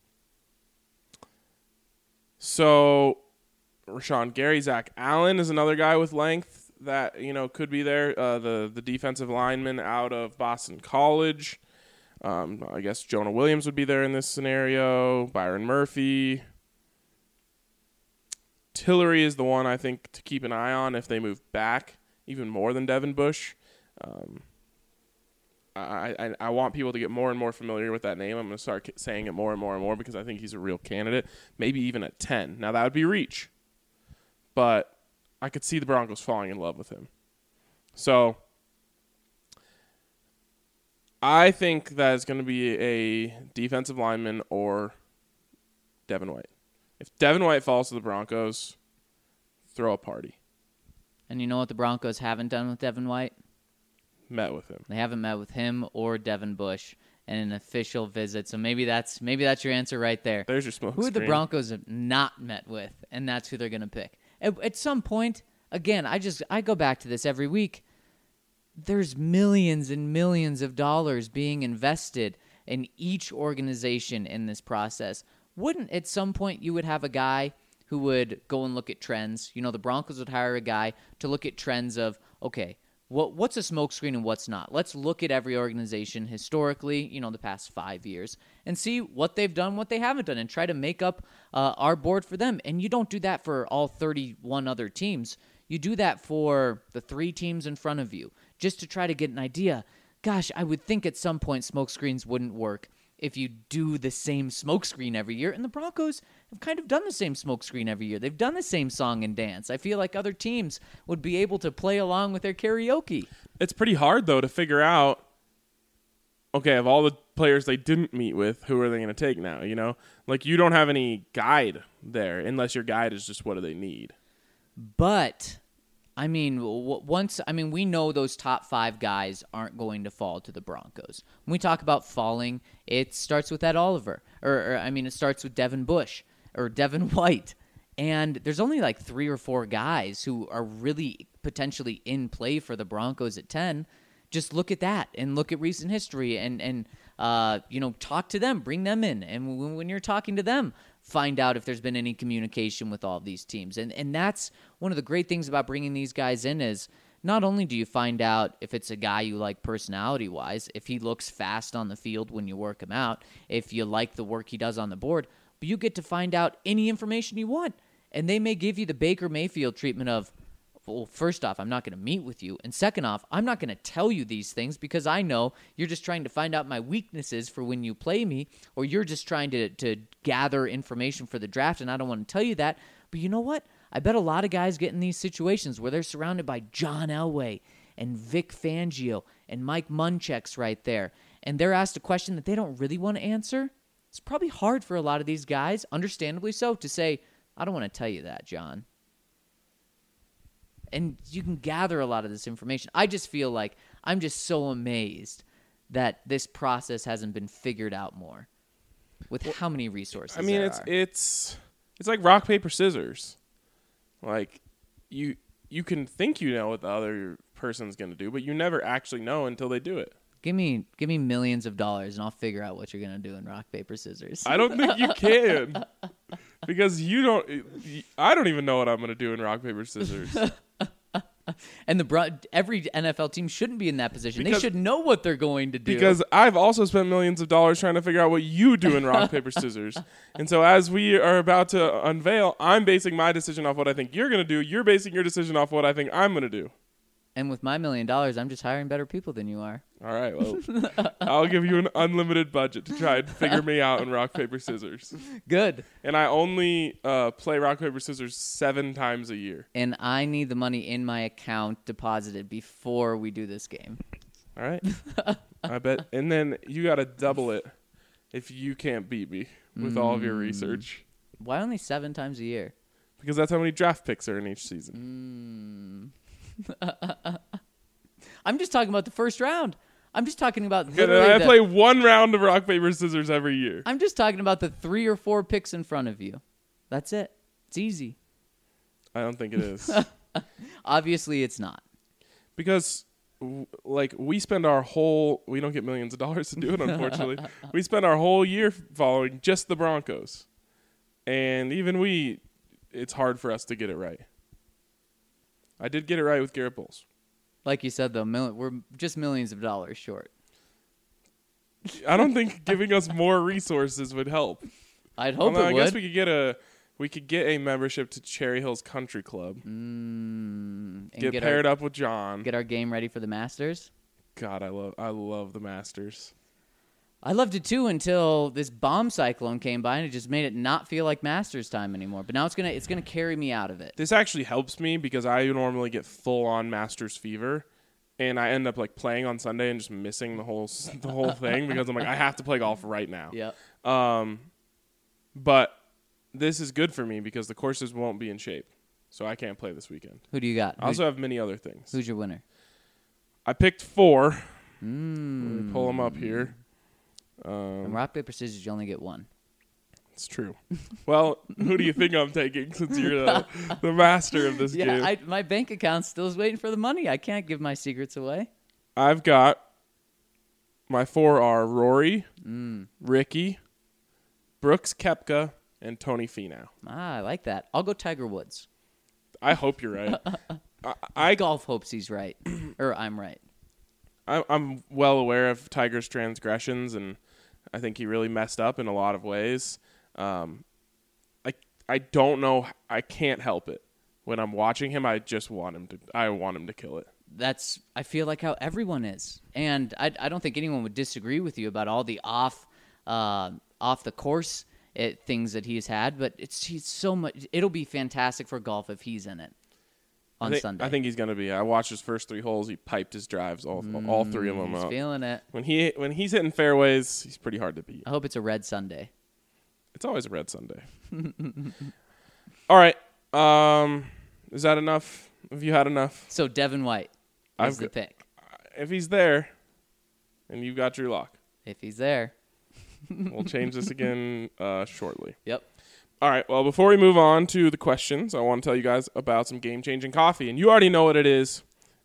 So Rashawn Gary, Zach Allen is another guy with length that could be there. The defensive lineman out of Boston College. I guess Jonah Williams would be there in this scenario. Byron Murphy. Tillery is the one I think to keep an eye on if they move back even more than Devin Bush. I want people to get more and more familiar with that name. I'm going to start saying it more and more and more because I think he's a real candidate, maybe even at 10. Now, that would be reach, but I could see the Broncos falling in love with him. So I think that it's going to be a defensive lineman or Devin White. If Devin White falls to the Broncos, throw a party. And you know what the Broncos haven't done with Devin White? Met with him. They haven't met with him or Devin Bush in an official visit. So maybe that's your answer right there. There's your smoke Who screen. the Broncos have not met with, and that's who they're going to pick. At some point, again, I go back to this every week. There's millions and millions of dollars being invested in each organization in this process. Wouldn't at some point you would have a guy who would go and look at trends? The Broncos would hire a guy to look at trends of, okay, what's a smokescreen and what's not? Let's look at every organization historically, the past 5 years, and see what they've done, what they haven't done, and try to make up our board for them. And you don't do that for all 31 other teams. You do that for the 3 teams in front of you, just to try to get an idea. Gosh, I would think at some point smokescreens wouldn't work if you do the same smokescreen every year. And the Broncos have kind of done the same smokescreen every year. They've done the same song and dance. I feel like other teams would be able to play along with their karaoke. It's pretty hard, though, to figure out, okay, of all the players they didn't meet with, who are they going to take now, Like, you don't have any guide there, unless your guide is just what do they need. But, we know those top 5 guys aren't going to fall to the Broncos. When we talk about falling, it starts with Ed Oliver. It starts with Devin Bush or Devin White. And there's only like 3 or 4 guys who are really potentially in play for the Broncos at 10. just look at that and look at recent history and talk to them, bring them in. And when you're talking to them, find out if there's been any communication with all of these teams. And that's one of the great things about bringing these guys in is not only do you find out if it's a guy you like personality-wise, if he looks fast on the field when you work him out, if you like the work he does on the board, but you get to find out any information you want. And they may give you the Baker Mayfield treatment of, well, first off, I'm not going to meet with you. And second off, I'm not going to tell you these things because I know you're just trying to find out my weaknesses for when you play me, or you're just trying to gather information for the draft, and I don't want to tell you that. But you know what? I bet a lot of guys get in these situations where they're surrounded by John Elway and Vic Fangio and Mike Munchak's right there, and they're asked a question that they don't really want to answer. It's probably hard for a lot of these guys, understandably so, to say, I don't want to tell you that, John. And you can gather a lot of this information. I just feel like I'm just so amazed that this process hasn't been figured out more with how many resources there are. It's like rock, paper, scissors. Like, you can think you know what the other person's going to do, but you never actually know until they do it. Give me millions of dollars, and I'll figure out what you're going to do in rock, paper, scissors. I don't think you can. Because I don't even know what I'm going to do in rock, paper, scissors. And every NFL team shouldn't be in that position. They should know what they're going to do. Because I've also spent millions of dollars trying to figure out what you do in rock, paper, scissors. And so as we are about to unveil, I'm basing my decision off what I think you're going to do. You're basing your decision off what I think I'm going to do. And with my $1 million, I'm just hiring better people than you are. All right, well, I'll give you an unlimited budget to try and figure me out in rock, paper, scissors. Good. And I only play rock, paper, scissors 7 times a year. And I need the money in my account deposited before we do this game. All right. I bet. And then you got to double it if you can't beat me with all of your research. Why only 7 times a year? Because that's how many draft picks are in each season. I'm just talking about the first round. I'm just talking about literally I play 1 round of rock, paper, scissors every year. I'm just talking about the 3 or 4 picks in front of you. That's it. It's easy. I don't think it is. Obviously, it's not. Because, we spend we don't get millions of dollars to do it, unfortunately. We spend our whole year following just the Broncos. And even it's hard for us to get it right. I did get it right with Garrett Bowles. Like you said, though, we're just millions of dollars short. I don't think giving us more resources would help. I'd hope it would. I guess we could get a membership to Cherry Hills Country Club. Get paired up with John. Get our game ready for the Masters. God, I love the Masters. I loved it too until this bomb cyclone came by and it just made it not feel like Masters time anymore. But now it's gonna carry me out of it. This actually helps me because I normally get full on Masters fever, and I end up playing on Sunday and just missing the whole thing because I'm like I have to play golf right now. Yeah. But this is good for me because the courses won't be in shape, so I can't play this weekend. Who do you got? I also have many other things. Who's your winner? I picked 4. Let me pull them up here. In rock, paper, scissors, you only get 1. It's true. Well, who do you think I'm taking since you're the master of this game? Yeah, my bank account still is waiting for the money. I can't give my secrets away. I've got my 4 are Rory, Ricky, Brooks Koepka, and Tony Finau. I like that. I'll go Tiger Woods. I hope you're right. Golf hopes he's right. Or I'm right. I'm well aware of Tiger's transgressions, and I think he really messed up in a lot of ways. I don't know. I can't help it. When I'm watching him, I just want him to. I want him to kill it. I feel like how everyone is, and I don't think anyone would disagree with you about all the off the course things that he's had. But he's so much. It'll be fantastic for golf if he's in it. Sunday. I think he's going to be. I watched his first 3 holes. He piped his drives, all 3 of them he's up. Feeling it. When he's hitting fairways, he's pretty hard to beat. I hope it's a red Sunday. It's always a red Sunday. All right. Is that enough? Have you had enough? So Devin White is the pick. If he's there, and you've got Drew Lock. If he's there. We'll change this again shortly. Yep. All right, well, before we move on to the questions, I want to tell you guys about some game-changing coffee. And you already know what it is.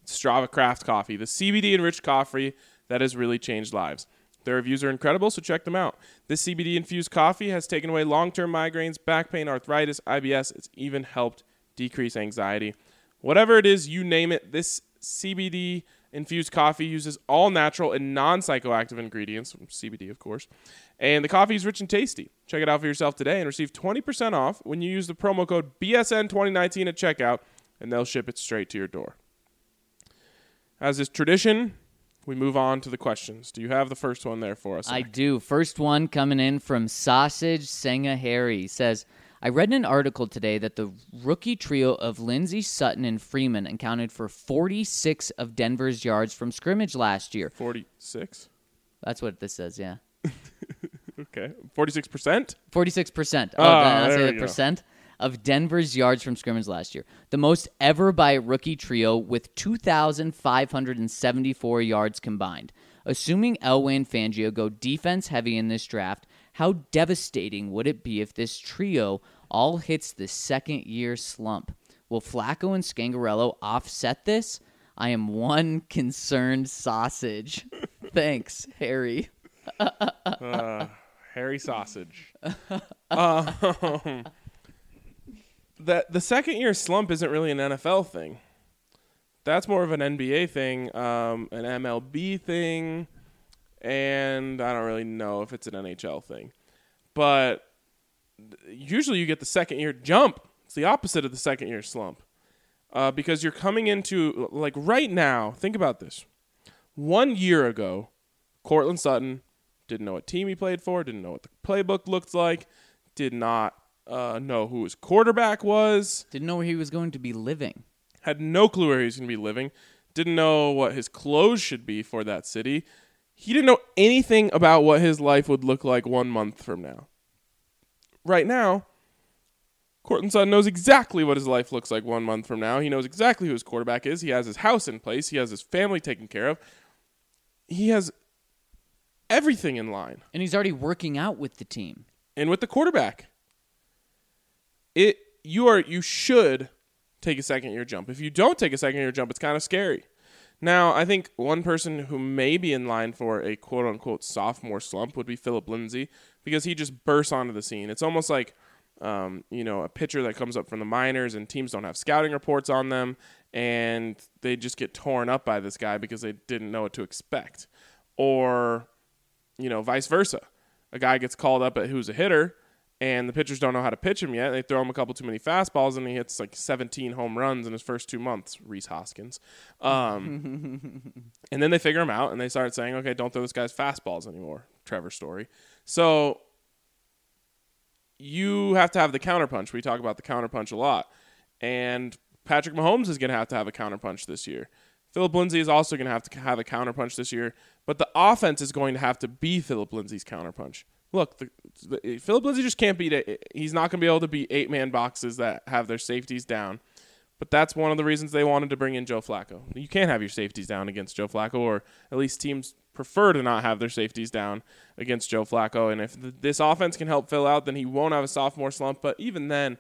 Strava Craft Coffee, the CBD-enriched coffee that has really changed lives. Their reviews are incredible, so check them out. This CBD-infused coffee has taken away long-term migraines, back pain, arthritis, IBS. It's even helped decrease anxiety. Whatever it is, you name it, this CBD-infused coffee uses all natural and non-psychoactive ingredients, CBD, of course, and the coffee is rich and tasty. Check it out for yourself today and receive 20% off when you use the promo code BSN2019 at checkout, and they'll ship it straight to your door. As is tradition, we move on to the questions. Do you have the first one there for us? I do. First one coming in from Sausage Senga Harry says, I read in an article today that the rookie trio of Lindsey, Sutton, and Freeman accounted for 46 of Denver's yards from scrimmage last year. 46? That's what this says, yeah. Okay. 46%? 46%. There I'll say we the go. percent of Denver's yards from scrimmage last year. The most ever by a rookie trio with 2,574 yards combined. Assuming Elway and Fangio go defense heavy in this draft, how devastating would it be if this trio all hits the second-year slump? Will Flacco and Scangarello offset this? I am one concerned sausage. Thanks, Harry. Harry Sausage. The second-year slump isn't really an NFL thing. That's more of an NBA thing, an MLB thing, and I don't really know if it's an NHL thing. But usually you get the second-year jump. It's the opposite of the second-year slump. Because you're coming into, like right now, think about this. 1 year ago, Cortland Sutton didn't know what team he played for, didn't know what the playbook looked like, did not know who his quarterback was. Didn't know where he was going to be living. Had no clue where he was going to be living. Didn't know what his clothes should be for that city. He didn't know anything about what his life would look like 1 month from now. Right now, Cortland Sutton knows exactly what his life looks like 1 month from now. He knows exactly who his quarterback is. He has his house in place. He has his family taken care of. He has everything in line. And he's already working out with the team. And with the quarterback. You should take a second-year jump. If you don't take a second-year jump, it's kind of scary. Now, I think one person who may be in line for a quote-unquote sophomore slump would be Phillip Lindsay, because he just bursts onto the scene. It's almost like a pitcher that comes up from the minors and teams don't have scouting reports on them, and they just get torn up by this guy because they didn't know what to expect. Or, vice versa. A guy gets called up who's a hitter, and the pitchers don't know how to pitch him yet. They throw him a couple too many fastballs, and he hits like 17 home runs in his first 2 months, Rhys Hoskins. And then they figure him out, and they start saying, okay, don't throw this guy's fastballs anymore, Trevor Story. So you have to have the counterpunch. We talk about the counterpunch a lot. And Patrick Mahomes is going to have a counterpunch this year. Phillip Lindsay is also going to have a counterpunch this year, but the offense is going to have to be Phillip Lindsay's counterpunch. Look, Phillip Lindsay just can't beat it. He's not going to be able to beat 8-man boxes that have their safeties down. But that's one of the reasons they wanted to bring in Joe Flacco. You can't have your safeties down against Joe Flacco, or at least teams prefer to not have their safeties down against Joe Flacco. And if this offense can help Phil out, then he won't have a sophomore slump. But even then,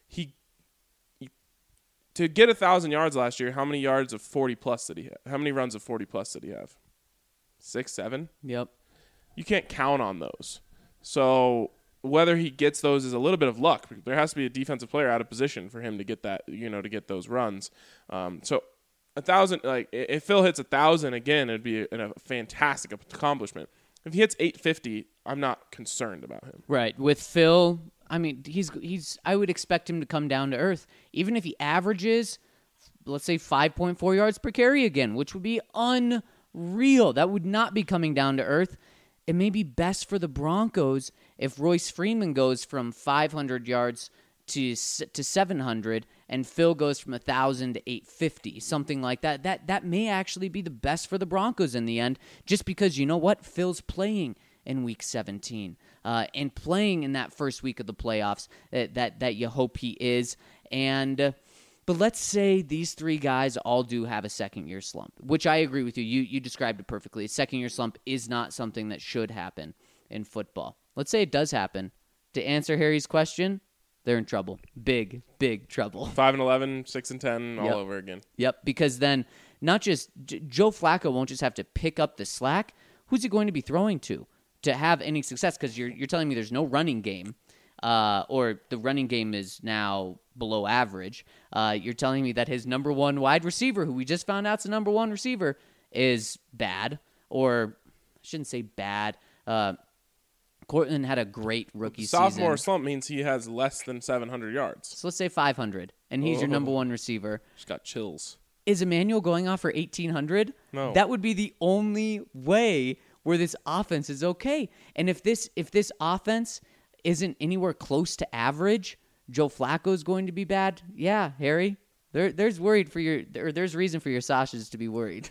to get 1,000 yards last year, how many yards of 40-plus did he have? How many runs of 40-plus did he have? 6, 7? Yep. You can't count on those. So whether he gets those is a little bit of luck. There has to be a defensive player out of position for him to get that, to get those runs. So 1,000, like if Phil hits 1,000 again, it'd be a fantastic accomplishment. If he hits 850, I'm not concerned about him. Right. With Phil, I mean, he's. I would expect him to come down to earth, even if he averages, let's say 5.4 yards per carry again, which would be unreal. That would not be coming down to earth. It may be best for the Broncos if Royce Freeman goes from 500 yards to 700, and Phil goes from 1,000 to 850, something like that. That may actually be the best for the Broncos in the end, just because you know what? Phil's playing in Week 17 and playing in that first week of the playoffs that you hope he is. But let's say these three guys all do have a second-year slump, which I agree with you. You described it perfectly. A second-year slump is not something that should happen in football. Let's say it does happen. To answer Harry's question, they're in trouble. Big, big trouble. 5-11, 6-10, all Yep. over again. Yep, because then not just Joe Flacco won't just have to pick up the slack. Who's he going to be throwing to have any success? Because you're telling me there's no running game, or the running game is now below average. You're telling me that his number one wide receiver, who we just found out's the number one receiver, is bad, or I shouldn't say bad. Cortland had a great rookie Sophomore season. slump means he has less than 700 yards. So let's say 500, and he's your number one receiver. Just got chills. Is Emmanuel going off for 1,800? No. That would be the only way where this offense is okay. And if this offense isn't anywhere close to average, Joe Flacco is going to be bad. Yeah, Harry, there's reason for your Sashas to be worried.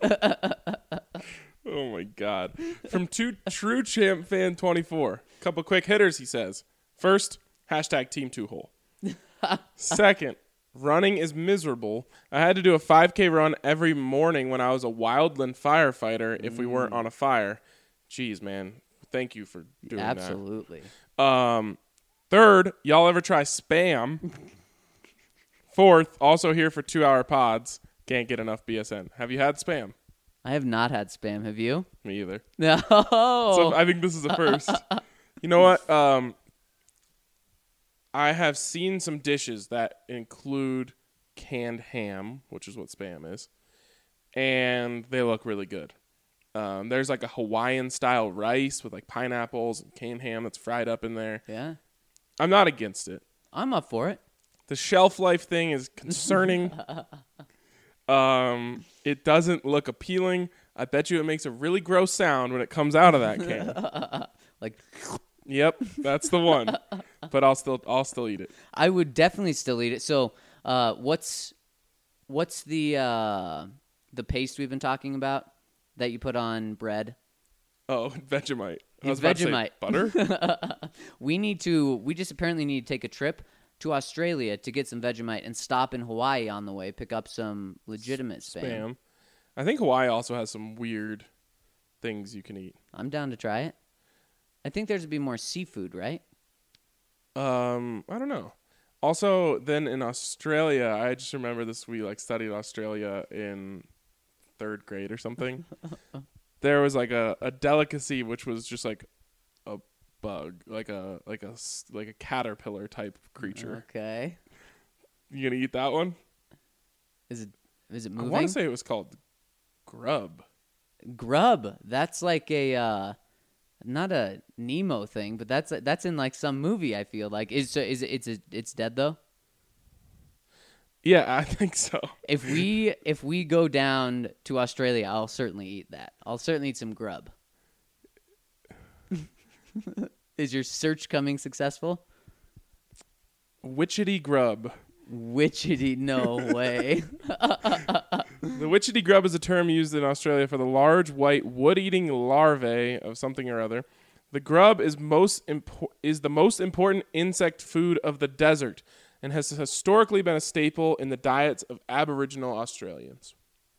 Oh my God. From True Champ Fan 24. Couple quick hitters, he says. First, hashtag Team Two Hole. Second, running is miserable. I had to do a 5K run every morning when I was a wildland firefighter if we weren't on a fire. Jeez, man. Thank you for doing Absolutely. that. Third, y'all ever try Spam? Fourth, also here for 2-hour pods. Can't get enough BSN. Have you had Spam? I have not had Spam. Have you? Me either. No. So I think this is a first. You know what? I have seen some dishes that include canned ham, which is what Spam is, and they look really good. There's like a Hawaiian-style rice with like pineapples and canned ham that's fried up in there. Yeah. I'm not against it. I'm up for it. The shelf life thing is concerning. It doesn't look appealing. I bet you it makes a really gross sound when it comes out of that can. Like, Yep, that's the one. But I'll still eat it. I would definitely still eat it. So, what's the paste we've been talking about that you put on bread? Oh, Vegemite. I was Vegemite. about to say butter? We just apparently need to take a trip to Australia to get some Vegemite and stop in Hawaii on the way, pick up some legitimate Spam. I think Hawaii also has some weird things you can eat. I'm down to try it. I think there's to be more seafood, right? I don't know. Also, then in Australia, I just remember this. We studied Australia in 3rd grade or something. There was like a delicacy which was just like a bug, like a caterpillar type creature. Okay. You gonna eat that one? Is it I moving? want to say it was called grub. Grub. That's like a not a Nemo thing, but that's in like some movie. I feel like it's dead though. Yeah, I think so. If we go down to Australia, I'll certainly eat that. I'll certainly eat some grub. Is your search coming successful? Witchetty grub. Witchetty, no way. The witchetty grub is a term used in Australia for the large white wood-eating larvae of something or other. The grub is the most important insect food of the desert and has historically been a staple in the diets of Aboriginal Australians.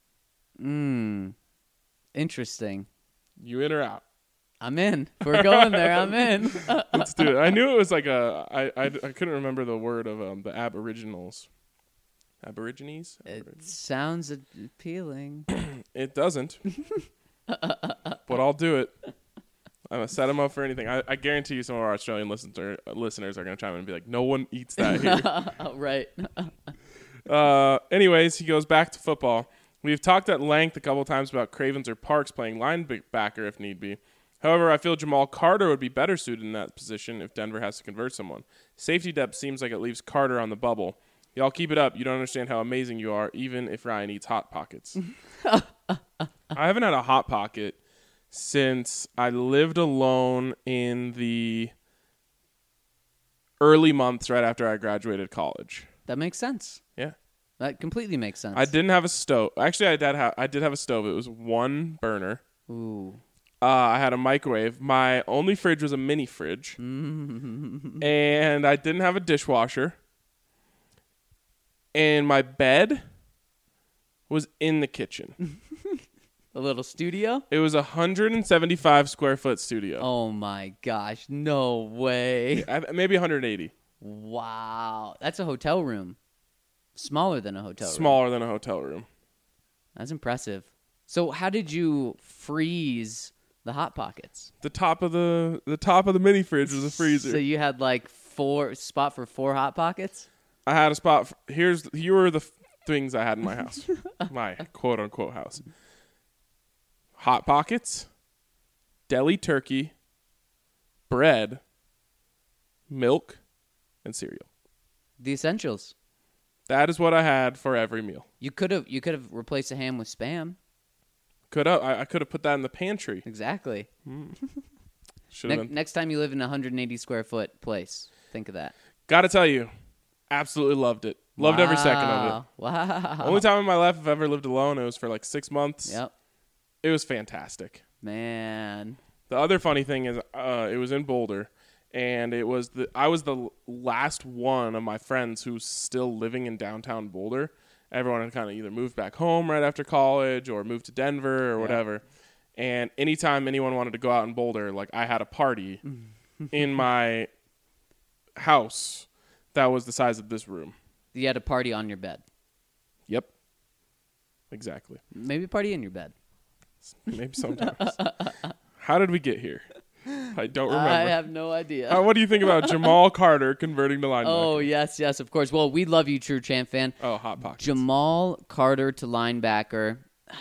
Interesting. You in or out? I'm in. If we're going there, I'm in. Let's do it. I knew it was like I couldn't remember the word of the Aboriginals. Aborigines? It sounds appealing. It doesn't. But I'll do it. I'm going to set them up for anything. I guarantee you some of our Australian listeners are going to chime in and be like, no one eats that here. Right. Anyways, he goes back to football. We've talked at length a couple times about Cravens or Parks playing linebacker if need be. However, I feel Jamal Carter would be better suited in that position if Denver has to convert someone. Safety depth seems like it leaves Carter on the bubble. Y'all keep it up. You don't understand how amazing you are, even if Ryan eats Hot Pockets. I haven't had a Hot Pocket since I lived alone in the early months right after I graduated college. That makes sense. Yeah. That completely makes sense. I didn't have a stove. Actually, I did have a stove. It was one burner. Ooh. I had a microwave. My only fridge was a mini fridge. And I didn't have a dishwasher. And my bed was in the kitchen. A little studio? It was a 175 square foot studio. Oh my gosh. No way. Maybe 180. Wow. That's a hotel room. Smaller than a hotel room. Smaller than a hotel room. That's impressive. So how did you freeze the Hot Pockets? The top of the mini fridge was a freezer. So you had like spot for 4 Hot Pockets? I had a spot. Here were the things I had in my house, my quote unquote house: Hot Pockets, deli turkey, bread, milk, and cereal. The essentials. That is what I had for every meal. You could have replaced the ham with Spam. I could have put that in the pantry. Exactly. Should have been. Next time you live in a 180 square foot place, think of that. Got to tell you, absolutely loved it. Loved every second of it. Wow. Only time in my life I've ever lived alone. It was for like 6 months. Yep. It was fantastic. Man. The other funny thing is, it was in Boulder, and I was the last one of my friends who's still living in downtown Boulder. Everyone had kind of either moved back home right after college or moved to Denver or whatever. And anytime anyone wanted to go out in Boulder, like I had a party in my house that was the size of this room. You had a party on your bed. Yep. Exactly. Maybe a party in your bed. Maybe sometimes. How did we get here? I don't remember. I have no idea. What do you think about Jamal Carter converting to linebacker? Oh, yes, of course. Well, we love you, True Champ fan. Oh, Hot Pockets. Jamal Carter to linebacker.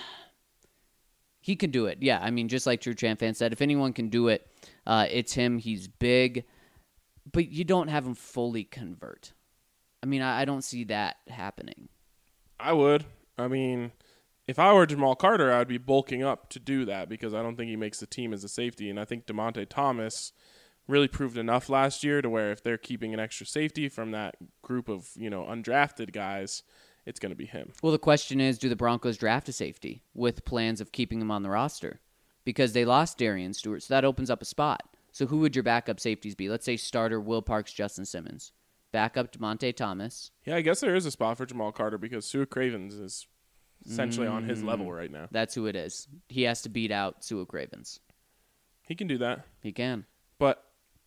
He can do it. Yeah, I mean, just like True Champ fan said, if anyone can do it, it's him. He's big. But you don't have him fully convert. I mean, I don't see that happening. I would. I mean, if I were Jamal Carter, I'd be bulking up to do that because I don't think he makes the team as a safety. And I think DeMonte Thomas really proved enough last year to where if they're keeping an extra safety from that group of, undrafted guys, it's going to be him. Well, the question is, do the Broncos draft a safety with plans of keeping him on the roster? Because they lost Darian Stewart, so that opens up a spot. So who would your backup safeties be? Let's say starter Will Parks, Justin Simmons. Backup DeMonte Thomas. Yeah, I guess there is a spot for Jamal Carter because Sua Cravens is essentially on his level right now. That's who it is. He has to beat out Sua Cravens. He can do that. He can. But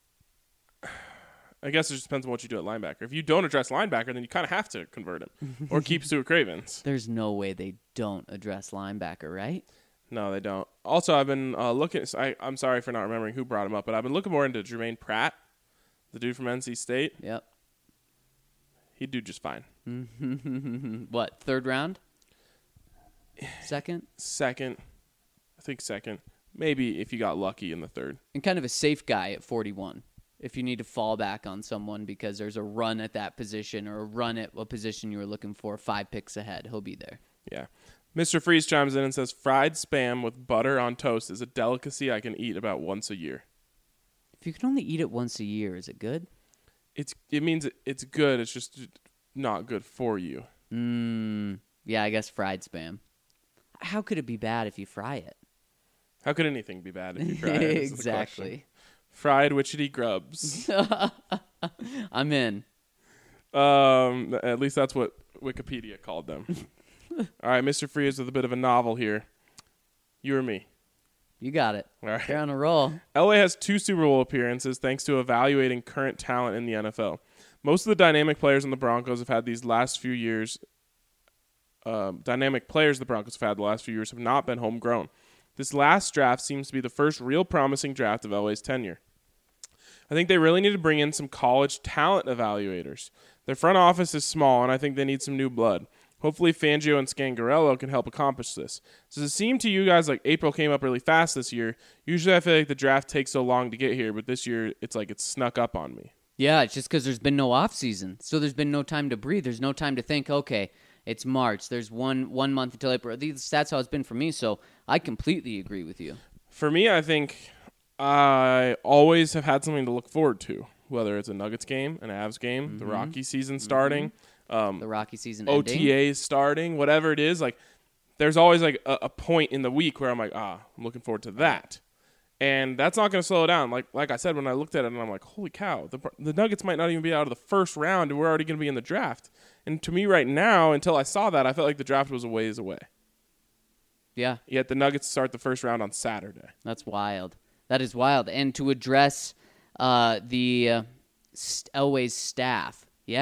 I guess it just depends on what you do at linebacker. If you don't address linebacker, then you kind of have to convert him or keep Sua Cravens. There's no way they don't address linebacker, right? No, they don't. Also, I've been looking. I'm sorry for not remembering who brought him up, but I've been looking more into Jermaine Pratt, the dude from NC State. Yep. He'd do just fine. What, third round? Second? Second. I think second. Maybe if you got lucky in the third. And kind of a safe guy at 41. If you need to fall back on someone because there's a run at that position or a run at a position you were looking for 5 picks ahead, he'll be there. Yeah. Mr. Freeze chimes in and says, fried Spam with butter on toast is a delicacy I can eat about once a year. If you can only eat it once a year, is it good? It means it's good. It's just not good for you. Yeah, I guess fried Spam. How could it be bad if you fry it? How could anything be bad if you fry it? Exactly. Fried witchetty grubs. I'm in. At least that's what Wikipedia called them. All right, Mr. Freeze with a bit of a novel here. You or me? You got it. All right. You're on a roll. LA has 2 Super Bowl appearances thanks to evaluating current talent in the NFL. Most of the dynamic players in the Broncos have had these last few years. Dynamic players the Broncos have had the last few years have not been homegrown. This last draft seems to be the first real promising draft of LA's tenure. I think they really need to bring in some college talent evaluators. Their front office is small, and I think they need some new blood. Hopefully Fangio and Scangarello can help accomplish this. Does it seem to you guys like April came up really fast this year? Usually I feel like the draft takes so long to get here, but this year it's like it's snuck up on me. Yeah, it's just because there's been no off season, so there's been no time to breathe. There's no time to think, okay, it's March. There's one month until April. That's how it's been for me, so I completely agree with you. For me, I think I always have had something to look forward to, whether it's a Nuggets game, an Avs game, the Rocky season starting, The Rocky season OTAs ending. starting, whatever it is. Like, there's always like a point in the week where I'm like, I'm looking forward to that. And that's not going to slow down. Like I said, when I looked at it, and I'm like, holy cow, the Nuggets might not even be out of the first round, and we're already going to be in the draft. And to me right now, until I saw that, I felt like the draft was a ways away. Yeah, Yet the Nuggets start the first round on Saturday. that's wild. That is wild. And to address the Elway's staff, yeah,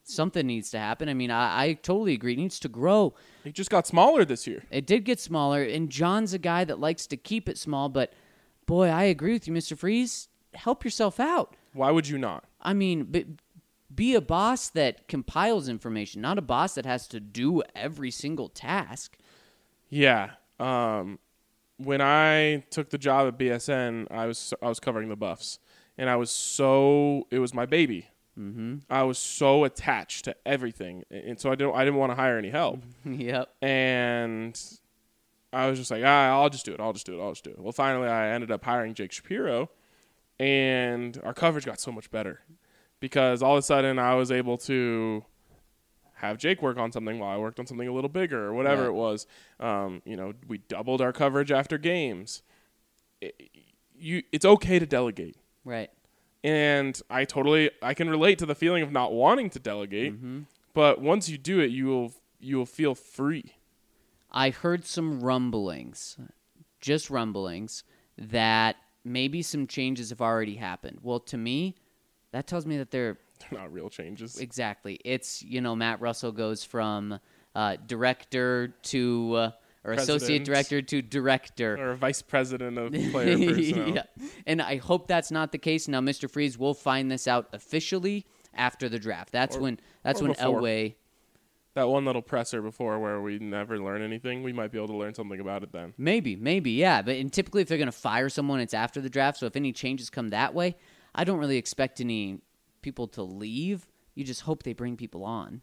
Something needs to happen. I mean, I totally agree. It needs to grow. He just got smaller this year. It did get smaller, and John's a guy that likes to keep it small, but boy, I agree with you, Mr. Freeze. Help yourself out. Why would you not? I mean, be a boss that compiles information, not a boss that has to do every single task. Yeah. When I took the job at BSN, I was covering the Buffs, and it was my baby. Mm-hmm. I was so attached to everything, and so I didn't want to hire any help. Yep. And I was just like, I'll just do it. Well, finally, I ended up hiring Jake Shapiro, and our coverage got so much better because all of a sudden I was able to have Jake work on something while I worked on something a little bigger or whatever it was. We doubled our coverage after games. It's okay to delegate. Right. And I can relate to the feeling of not wanting to delegate, but once you do it, you will feel free. I heard some rumblings, just rumblings, that maybe some changes have already happened. Well, to me, that tells me that they're not real changes. Exactly. It's, Matt Russell goes from director to or associate director to director. Or vice president of player personnel. Yeah. And I hope that's not the case. Now, Mr. Freeze will find this out officially after the draft. That's when Elway. That one little presser before where we never learn anything, we might be able to learn something about it then. Maybe, yeah. But typically if they're going to fire someone, it's after the draft. So if any changes come that way, I don't really expect any people to leave. You just hope they bring people on.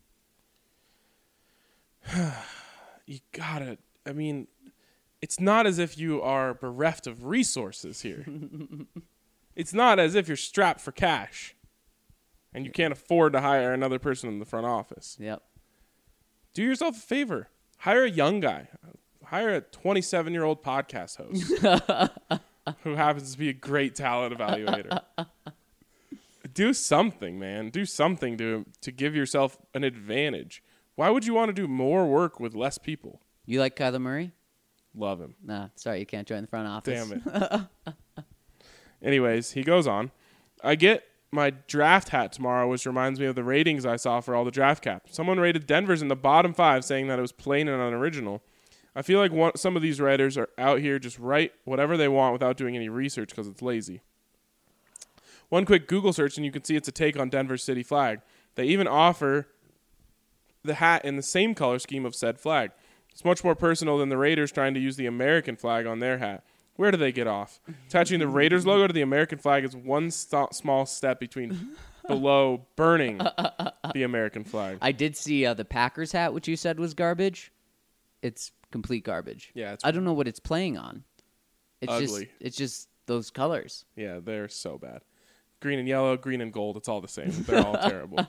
You gotta. I mean, it's not as if you are bereft of resources here. It's not as if you're strapped for cash and you can't afford to hire another person in the front office. Yep. Do yourself a favor. Hire a young guy. Hire a 27-year-old podcast host who happens to be a great talent evaluator. Do something, man. Do something to give yourself an advantage. Why would you want to do more work with less people? You like Kyler Murray? Love him. Nah, sorry, you can't join the front office. Damn it. Anyways, he goes on. I get my draft hat tomorrow, which reminds me of the ratings I saw for all the draft caps. Someone rated Denver's in the bottom 5, saying that it was plain and unoriginal. I feel like some of these writers are out here just write whatever they want without doing any research because it's lazy. One quick Google search and you can see it's a take on Denver's city flag. They even offer the hat in the same color scheme of said flag. It's much more personal than the Raiders trying to use the American flag on their hat. Where do they get off? Attaching the Raiders logo to the American flag is one small step below burning the American flag. I did see the Packers hat, which you said was garbage. It's complete garbage. Yeah, I don't know what it's playing on. It's ugly. It's just those colors. Yeah, they're so bad. Green and yellow, green and gold, it's all the same. They're all terrible.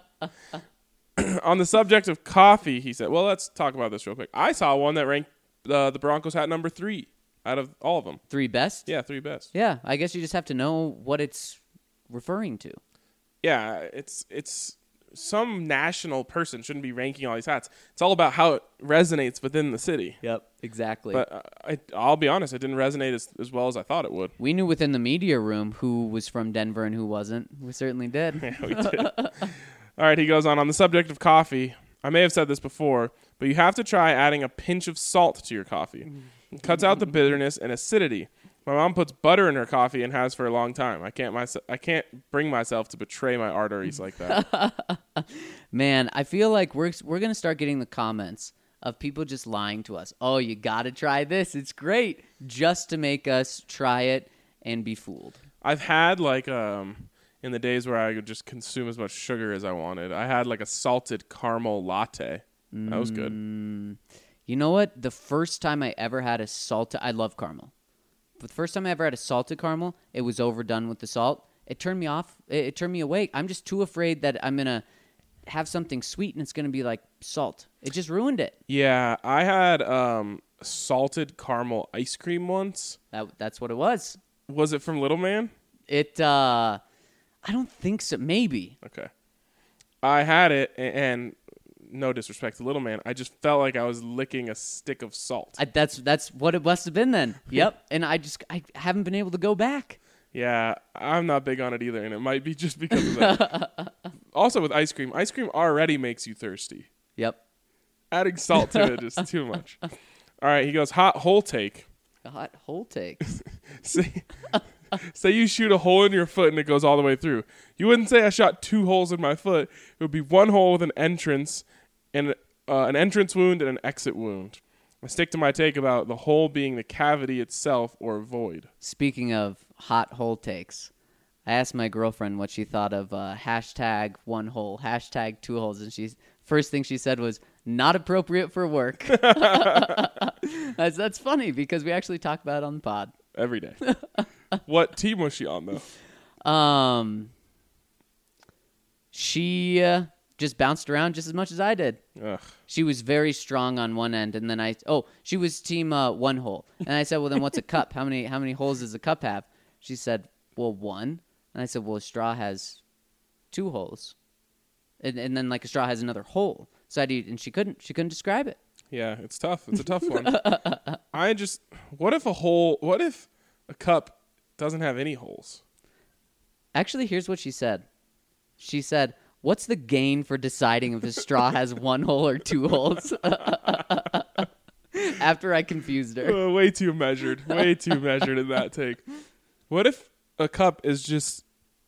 On the subject of coffee, he said, well, let's talk about this real quick. I saw one that ranked the Broncos hat number 3 out of all of them. 3 best? Yeah, 3 best. Yeah, I guess you just have to know what it's referring to. Yeah, it's some national person shouldn't be ranking all these hats. It's all about how it resonates within the city. Yep, exactly. But I'll be honest, it didn't resonate as well as I thought it would. We knew within the media room who was from Denver and who wasn't. We certainly did. Yeah, we did. All right, he goes on the subject of coffee. I may have said this before, but you have to try adding a pinch of salt to your coffee. It cuts out the bitterness and acidity. My mom puts butter in her coffee and has for a long time. I can't bring myself to betray my arteries like that. Man, I feel like we're going to start getting the comments of people just lying to us. Oh, you got to try this. It's great. Just to make us try it and be fooled. I've had in the days where I could just consume as much sugar as I wanted, I had a salted caramel latte. That was good. You know what? The first time I ever had I love caramel. But the first time I ever had a salted caramel, it was overdone with the salt. It turned me off. It turned me awake. I'm just too afraid that I'm going to have something sweet and it's going to be like salt. It just ruined it. Yeah, I had salted caramel ice cream once. That's what it was. Was it from Little Man? I don't think so. Maybe. Okay. I had it, and no disrespect to Little Man, I just felt like I was licking a stick of salt. That's what it must have been then. Yep. And I haven't been able to go back. Yeah, I'm not big on it either, and it might be just because of that. Also with ice cream already makes you thirsty. Yep. Adding salt to it is too much. All right, he goes, hot hole take. A hot hole take. Say you shoot a hole in your foot and it goes all the way through. You wouldn't say I shot 2 holes in my foot. It would be 1 hole with an entrance and an entrance wound and an exit wound. I stick to my take about the hole being the cavity itself or void. Speaking of hot hole takes, I asked my girlfriend what she thought of hashtag 1 hole, hashtag 2 holes, and first thing she said was, not appropriate for work. That's funny because we actually talk about it on the pod. Every day. What team was she on, though? She just bounced around just as much as I did. Ugh. She was very strong on one end, and then she was team 1 hole. And I said, well, then what's a cup? How many holes does a cup have? She said, well, 1. And I said, well, a straw has 2 holes. And then like a straw has another hole. So and she couldn't describe it. Yeah, it's tough. It's a tough one. What if a cup doesn't have any holes? Actually, here's what she said. She said, what's the gain for deciding if a straw has 1 hole or 2 holes? After I confused her. Way too measured. Way too measured in that take. What if a cup is just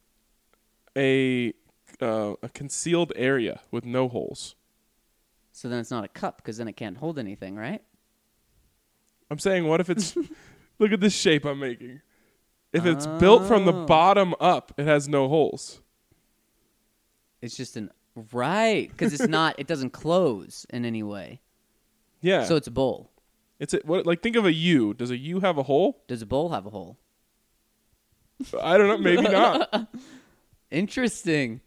a concealed area with no holes? So then it's not a cup because then it can't hold anything, right? I'm saying, what if it's... Look at this shape I'm making. If it's built from the bottom up, it has no holes. It's just right, because it's not. It doesn't close in any way. Yeah. So it's a bowl. Think of a U. Does a U have a hole? Does a bowl have a hole? I don't know. Maybe not. Interesting.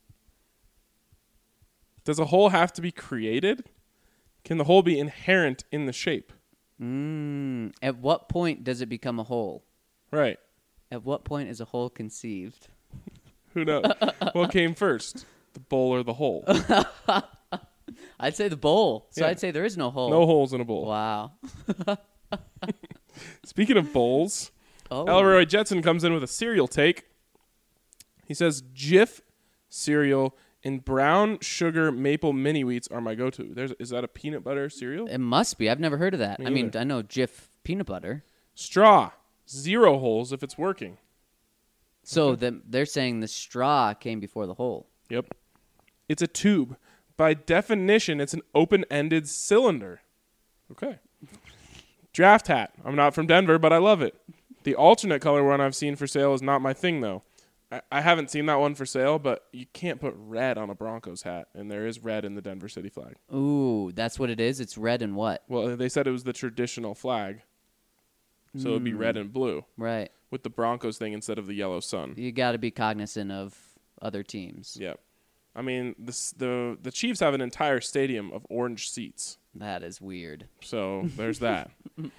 Does a hole have to be created? Can the hole be inherent in the shape? At what point does it become a hole? Right. At what point is a hole conceived? Who knows? What came first, the bowl or the hole? I'd say the bowl. So Yeah. I'd say there is no hole. No holes in a bowl. Wow. Speaking of bowls, Elroy Jetson comes in with a cereal take. He says, Jif cereal and brown sugar maple mini wheats are my go-to. Is that a peanut butter cereal? It must be. I've never heard of that. Me I mean, either. I know Jif peanut butter. Straw, 0 holes if it's working. So they're saying the straw came before the hole. Yep. It's a tube. By definition, it's an open-ended cylinder. Okay. Draft hat. I'm not from Denver, but I love it. The alternate color one I've seen for sale is not my thing, though. I haven't seen that one for sale, but you can't put red on a Broncos hat, and there is red in the Denver City flag. Ooh, that's what it is? It's red and what? Well, they said it was the traditional flag, so it would be red and blue Right. with the Broncos thing instead of the yellow sun. You got to be cognizant of other teams. Yep. I mean, the Chiefs have an entire stadium of orange seats. That is weird. So there's that.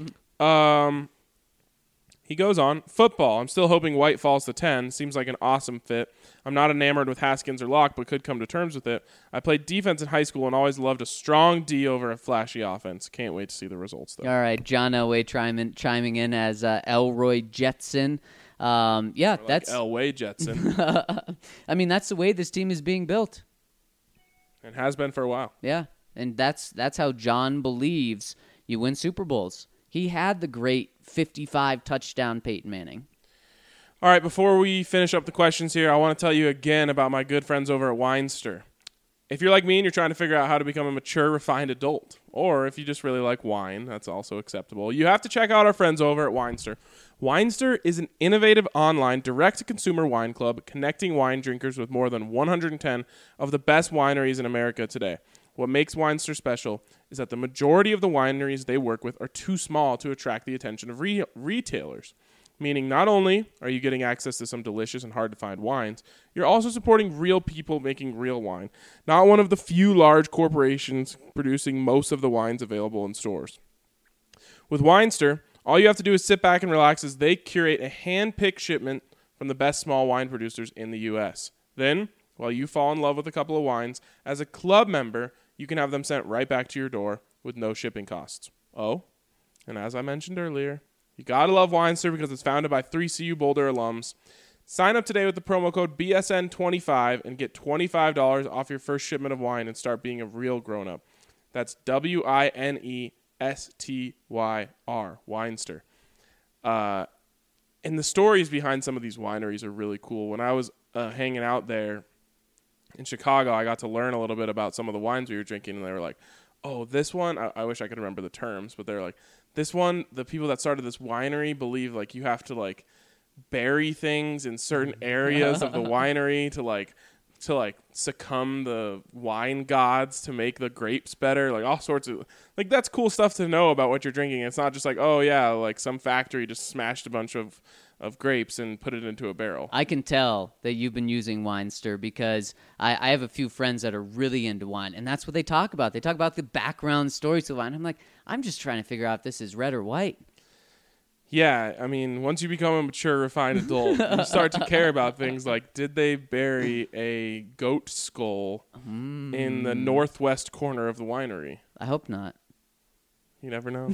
He goes on. Football. I'm still hoping White falls to 10. Seems like an awesome fit. I'm not enamored with Haskins or Locke, but could come to terms with it. I played defense in high school and always loved a strong D over a flashy offense. Can't wait to see the results, though. All right, John Elway chiming in as Elroy Jetson. That's Elway Jetson. I mean, that's the way this team is being built. And has been for a while. Yeah, and that's how John believes you win Super Bowls. He had the great 55 touchdown Peyton Manning. All right, before we finish up the questions here, I want to tell you again about my good friends over at Weinster. If you're like me and you're trying to figure out how to become a mature, refined adult, or if you just really like wine, that's also acceptable, you have to check out our friends over at Weinster. Weinster is an innovative online direct-to-consumer wine club connecting wine drinkers with more than 110 of the best wineries in America today. What makes Weinster special is that the majority of the wineries they work with are too small to attract the attention of retailers. Meaning not only are you getting access to some delicious and hard-to-find wines, you're also supporting real people making real wine, not one of the few large corporations producing most of the wines available in stores. With Weinster, all you have to do is sit back and relax as they curate a hand-picked shipment from the best small wine producers in the U.S. Then, while you fall in love with a couple of wines, as a club member, you can have them sent right back to your door with no shipping costs. Oh, and as I mentioned earlier, you gotta love Weinster because it's founded by 3 CU Boulder alums. Sign up today with the promo code BSN25 and get $25 off your first shipment of wine and start being a real grown-up. That's WINESTYR, Winester. And the stories behind some of these wineries are really cool. When I was hanging out there in Chicago, I got to learn a little bit about some of the wines we were drinking, and they were like, oh, this one, I wish I could remember the terms, but they're like, this one, the people that started this winery believe like you have to like bury things in certain areas of the winery to succumb the wine gods to make the grapes better, like all sorts of like that's cool stuff to know about what you're drinking. It's not just like, oh yeah, like some factory just smashed a bunch of grapes and put it into a barrel. I can tell that you've been using Winester because I have a few friends that are really into wine, and that's what they talk about. They talk about the background stories to wine. I'm like, I'm just trying to figure out if this is red or white. Yeah, I mean, once you become a mature, refined adult, you start to care about things like, did they bury a goat skull in the northwest corner of the winery? I hope not. You never know.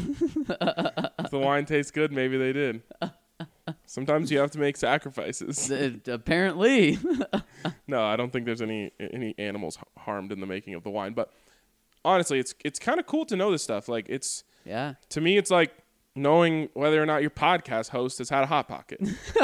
If the wine tastes good, maybe they did. Sometimes you have to make sacrifices. Apparently. No, I don't think there's any animals harmed in the making of the wine. But honestly, it's kind of cool to know this stuff. Like to me, it's like knowing whether or not your podcast host has had a Hot Pocket.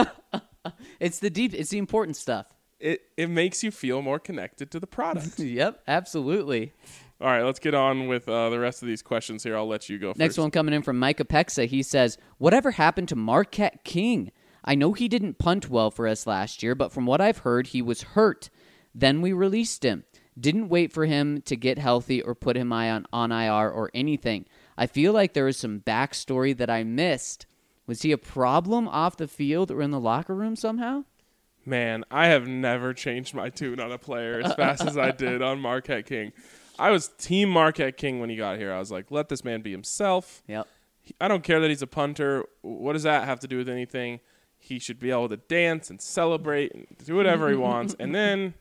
It's the important stuff. It makes you feel more connected to the product. Yep, absolutely. All right, let's get on with the rest of these questions here. I'll let you go first. Next one coming in from Micah Pexa. He says, whatever happened to Marquette King? I know he didn't punt well for us last year, but from what I've heard, he was hurt. Then we released him. Didn't wait for him to get healthy or put him on IR or anything. I feel like there was some backstory that I missed. Was he a problem off the field or in the locker room somehow? Man, I have never changed my tune on a player as fast as I did on Marquette King. I was team Marquette King when he got here. I was like, let this man be himself. Yep. I don't care that he's a punter. What does that have to do with anything? He should be able to dance and celebrate and do whatever he wants. And then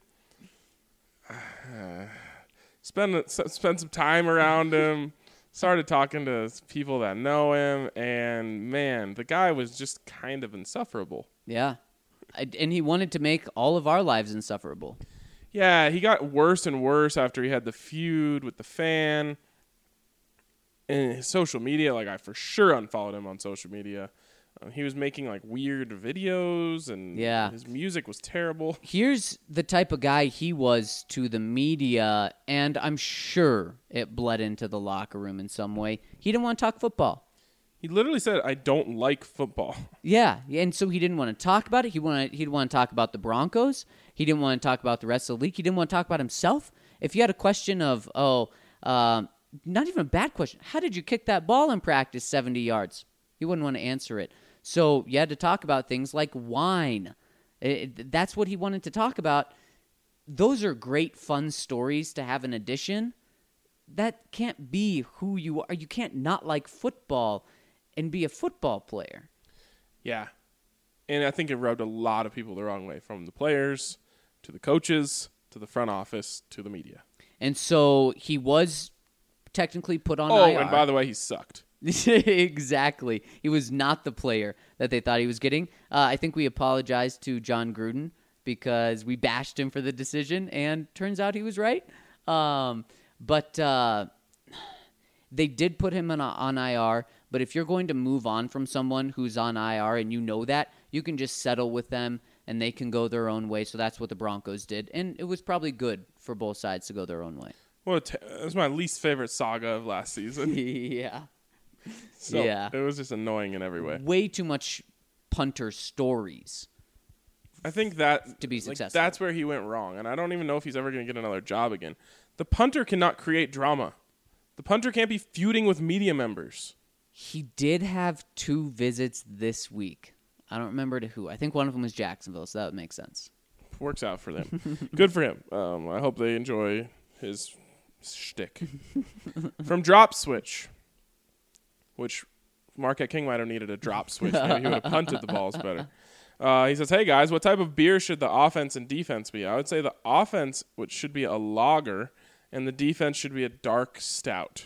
spend some time around him. Started talking to people that know him. And, man, the guy was just kind of insufferable. Yeah. And he wanted to make all of our lives insufferable. Yeah, he got worse and worse after he had the feud with the fan. And his social media, like I for sure unfollowed him on social media. He was making like weird videos and his music was terrible. Here's the type of guy he was to the media, and I'm sure it bled into the locker room in some way. He didn't want to talk football. He literally said, I don't like football. Yeah, and so he didn't want to talk about it. He'd want to talk about the Broncos. He didn't want to talk about the rest of the league. He didn't want to talk about himself. If you had a question of, not even a bad question, how did you kick that ball in practice 70 yards? He wouldn't want to answer it. So you had to talk about things like wine. That's what he wanted to talk about. Those are great, fun stories to have in addition. That can't be who you are. You can't not like football and be a football player. Yeah. And I think it rubbed a lot of people the wrong way, from the players to the coaches to the front office to the media. And so he was technically put on IR. Oh, and by the way, he sucked. Exactly. He was not the player that they thought he was getting. I think we apologized to John Gruden because we bashed him for the decision, and turns out he was right. But they did put him on IR. But if you're going to move on from someone who's on IR and you know that, you can just settle with them and they can go their own way. So that's what the Broncos did. And it was probably good for both sides to go their own way. Well, it was my least favorite saga of last season. Yeah. So it was just annoying in every way. Way too much punter stories. I think that to be successful. Like, that's where he went wrong. And I don't even know if he's ever going to get another job again. The punter cannot create drama. The punter can't be feuding with media members. He did have 2 visits this week. I don't remember to who. I think one of them was Jacksonville, so that would make sense. Works out for them. Good for him. I hope they enjoy his shtick. From Drop Switch, which Marquette King might have needed a drop switch. Maybe he would have punted the balls better. He says, hey, guys, what type of beer should the offense and defense be? I would say the offense, which should be a lager, and the defense should be a dark stout.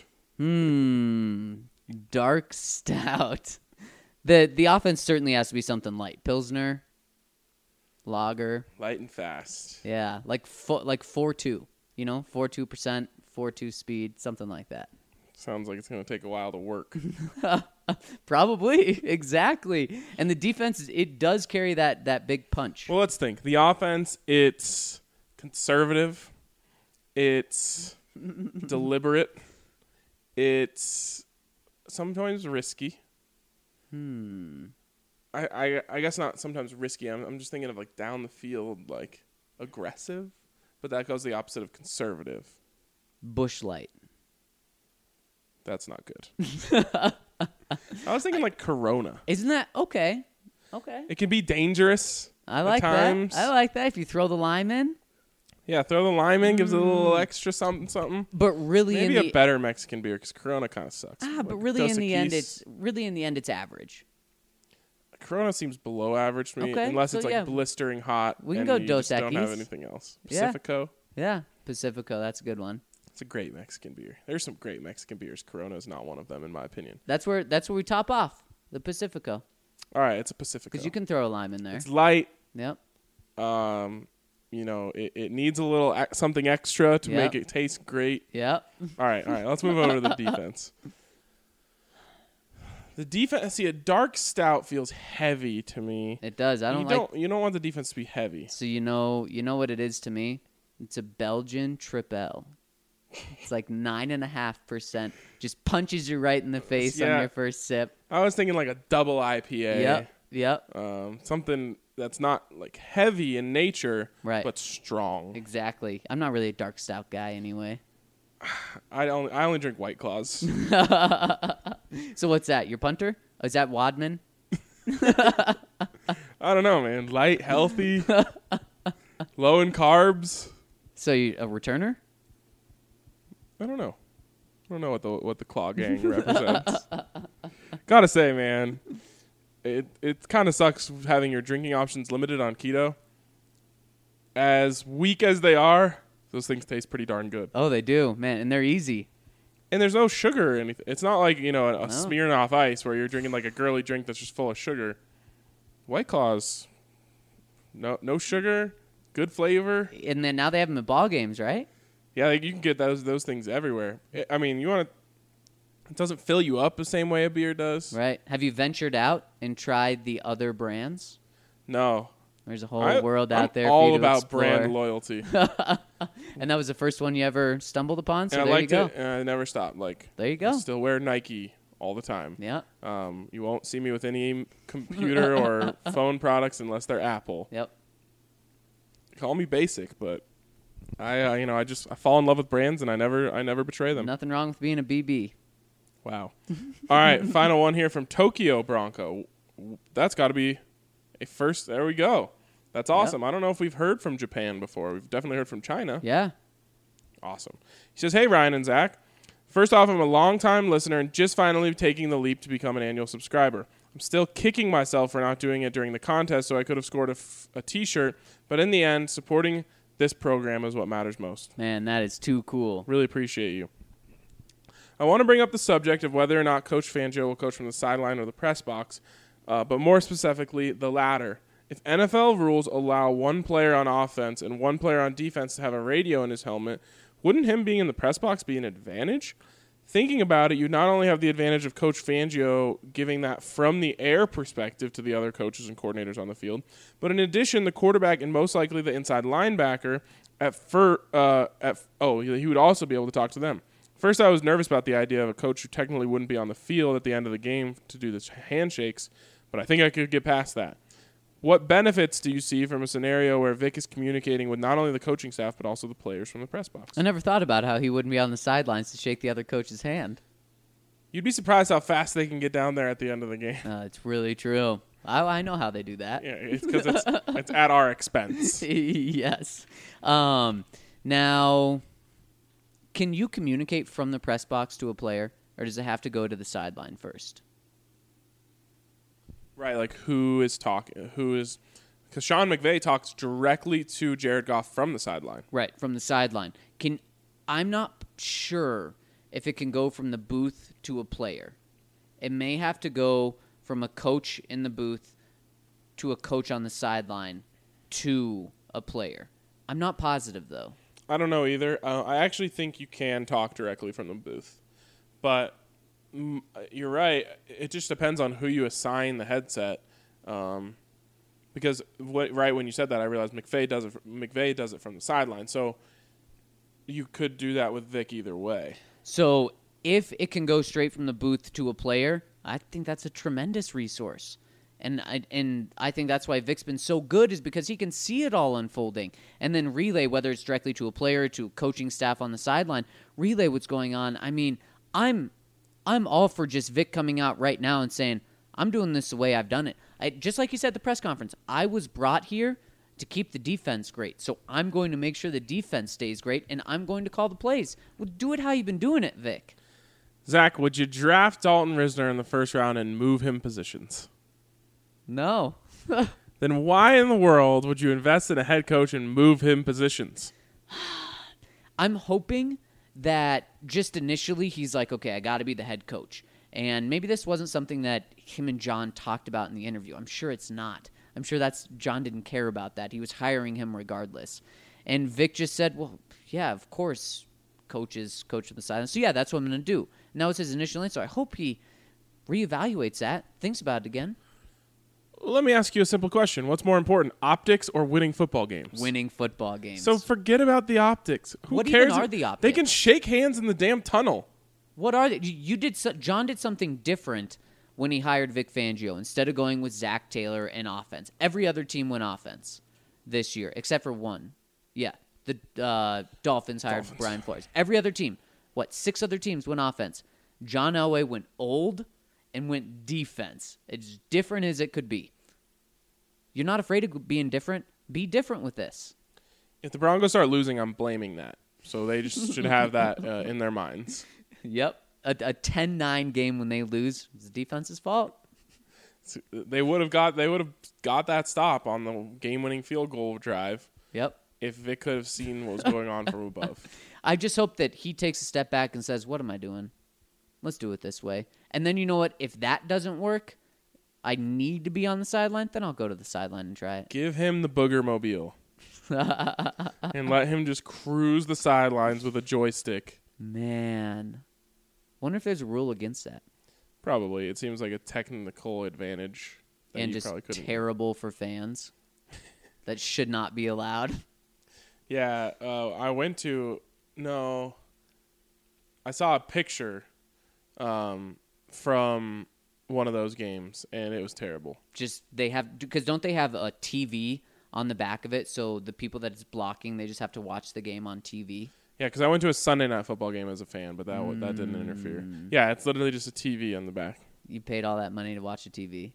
Dark stout. The offense certainly has to be something light. Pilsner. lager. Light and fast. Yeah, like 4.2. 4.2%, 4.2 speed, something like that. Sounds like it's going to take a while to work. Probably, exactly. And the defense, it does carry that big punch. Well, let's think. The offense, it's conservative. It's deliberate. It's sometimes risky. I guess not sometimes risky. I'm just thinking of like down the field, like aggressive. But that goes the opposite of conservative. Busch Light. That's not good. I was thinking like Corona. Isn't that okay? Okay. It can be dangerous. I like at times. that. I like that. If you throw the lime in. Yeah, throw the lime in, gives it a little extra something. But really, Maybe a better Mexican beer because Corona kind of sucks. but really in the end, it's average. Corona seems below average to me, Okay, unless so it's like yeah. blistering hot. We can and go you Dos just don't have Equis. anything else. Yeah. Pacifico. Yeah, Pacifico. That's a good one. It's a great Mexican beer. There's some great Mexican beers. Corona is not one of them, in my opinion. That's where we top off the Pacifico All right, it's a Pacifico. because you can throw a lime in there. It's light. Yep. It needs a little something extra to make it taste great. Yep. All right. Let's move over to the defense. The defense, a dark stout feels heavy to me. It does. You don't want the defense to be heavy. So you know what it is to me? It's a Belgian Triple. It's like 9.5%. Just punches you right in the face on your first sip. I was thinking like a double IPA. Yep. Something that's not like heavy in nature, Right. but strong. Exactly. I'm not really a dark stout guy anyway. I only drink White Claws. So what's that? Your punter? Oh, is that Wadman? I don't know, man. Light, healthy, low in carbs. So you a returner? I don't know. I don't know what the Claw Gang represents. Gotta say, man, it kind of sucks having your drinking options limited on keto. As weak as they are, those things taste pretty darn good. Oh, they do, man, and they're easy. And there's no sugar or anything. It's not like, a Smirnoff Ice where you're drinking like a girly drink that's just full of sugar. White Claws, no sugar, good flavor. And then now they have them at ball games, right? Yeah, like you can get those things everywhere. I mean, it doesn't fill you up the same way a beer does. Right. Have you ventured out and tried the other brands? No. There's a whole world out there. I'm all for you to about explore. brand loyalty. And that was the first one you ever stumbled upon. So And I there you liked go. it, and I never stopped. Like, There you go. I still wear Nike all the time. Yeah. You won't see me with any computer or phone products unless they're Apple. Yep. Call me basic, but I fall in love with brands and I never betray them. Nothing wrong with being a BB. Wow. All right, final one here from Tokyo Bronco. That's got to be a first. There we go. That's awesome. Yep. I don't know if we've heard from Japan before. We've definitely heard from China. Yeah. Awesome. He says, "Hey, Ryan and Zach. First off, I'm a long-time listener and just finally taking the leap to become an annual subscriber. I'm still kicking myself for not doing it during the contest, so I could have scored a T-shirt. But in the end, supporting this program is what matters most. Man, that is too cool. Really appreciate you. I want to bring up the subject of whether or not Coach Fangio will coach from the sideline or the press box, but more specifically, the latter. If NFL rules allow one player on offense and one player on defense to have a radio in his helmet, wouldn't him being in the press box be an advantage? Thinking about it, you not only have the advantage of Coach Fangio giving that from the air perspective to the other coaches and coordinators on the field, but in addition, the quarterback and most likely the inside linebacker he would also be able to talk to them. First, I was nervous about the idea of a coach who technically wouldn't be on the field at the end of the game to do the handshakes, but I think I could get past that. What benefits do you see from a scenario where Vic is communicating with not only the coaching staff but also the players from the press box? I never thought about how he wouldn't be on the sidelines to shake the other coach's hand. You'd be surprised how fast they can get down there at the end of the game. It's really true. I know how they do that. Yeah, it's because it's at our expense. Yes. Now, can you communicate from the press box to a player, or does it have to go to the sideline first? Right, like who is talking? Because Sean McVay talks directly to Jared Goff from the sideline. Right, from the sideline. I'm not sure if it can go from the booth to a player. It may have to go from a coach in the booth to a coach on the sideline to a player. I'm not positive, though. I don't know either. I actually think you can talk directly from the booth. But you're right. It just depends on who you assign the headset. Because right when you said that, I realized McVay does it from the sideline. So you could do that with Vic either way. So if it can go straight from the booth to a player, I think that's a tremendous resource. And I think that's why Vic's been so good, is because he can see it all unfolding. And then relay, whether it's directly to a player, to coaching staff on the sideline, relay what's going on. I mean, I'm all for just Vic coming out right now and saying, I'm doing this the way I've done it. Just like you said at the press conference, I was brought here to keep the defense great. So I'm going to make sure the defense stays great, and I'm going to call the plays. Well, do it how you've been doing it, Vic. Zach, would you draft Dalton Risner in the first round and move him positions? No. Then why in the world would you invest in a head coach and move him positions? I'm hoping that just initially he's like, okay, I got to be the head coach. And maybe this wasn't something that him and John talked about in the interview. I'm sure it's not. I'm sure John didn't care about that. He was hiring him regardless. And Vic just said, well, yeah, of course, coach is coach of the sideline. So, yeah, that's what I'm going to do. And that was his initial answer. I hope he reevaluates that, thinks about it again. Let me ask you a simple question. What's more important, optics or winning football games? Winning football games. So forget about the optics. Who What cares? even are the optics? They can shake hands in the damn tunnel. What are they? John did something different when he hired Vic Fangio. Instead of going with Zach Taylor and offense, every other team went offense this year except for one. Yeah, the Dolphins hired Brian Flores. Every other team, 6 other teams went offense. John Elway went old and went defense. It's different as it could be. You're not afraid of being different? Be different with this. If the Broncos start losing, I'm blaming that. So they just should have that in their minds. Yep. A 10-9 game when they lose is the defense's fault. They would have got that stop on the game-winning field goal drive. Yep. If Vic could have seen what was going on from above. I just hope that he takes a step back and says, what am I doing? Let's do it this way. And then you know what? If that doesn't work, I need to be on the sideline, then I'll go to the sideline and try it. Give him the booger mobile. And let him just cruise the sidelines with a joystick. Man. Wonder if there's a rule against that. Probably. It seems like a technical advantage. And just terrible for fans. That should not be allowed. Yeah. I saw a picture from one of those games, and it was terrible. Because don't they have a TV on the back of it, so the people that it's blocking, they just have to watch the game on TV? Yeah, because I went to a Sunday night football game as a fan, but that didn't interfere. Yeah, it's literally just a TV on the back. You paid all that money to watch a TV.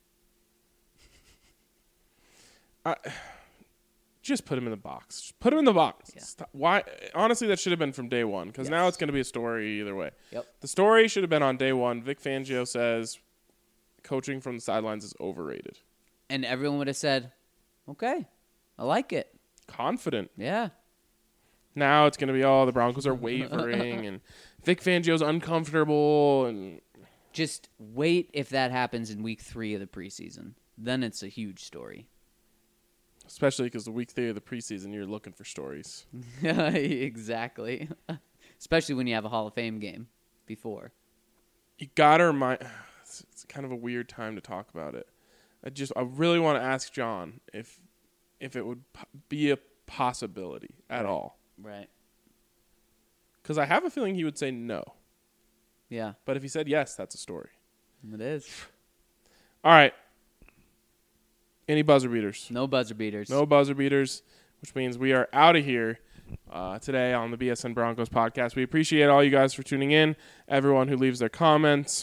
Just put him in the box. Just put him in the box. Yeah. Why? Honestly, that should have been from day one, because now it's going to be a story either way. Yep. The story should have been on day one. Vic Fangio says coaching from the sidelines is overrated. And everyone would have said, okay, I like it. Confident. Yeah. Now it's going to be, the Broncos are wavering, and Vic Fangio's uncomfortable. And just wait if that happens in week 3 of the preseason. Then it's a huge story. Especially because the week 3 of the preseason, you're looking for stories. Exactly. Especially when you have a Hall of Fame game before. You got to remind... It's kind of a weird time to talk about it. I really want to ask John if it would be a possibility at all. Right. Because I have a feeling he would say no. Yeah. But if he said yes, that's a story. It is. All right. Any buzzer beaters? No buzzer beaters. No buzzer beaters, which means we are out of here today on the BSN Broncos podcast. We appreciate all you guys for tuning in, everyone who leaves their comments.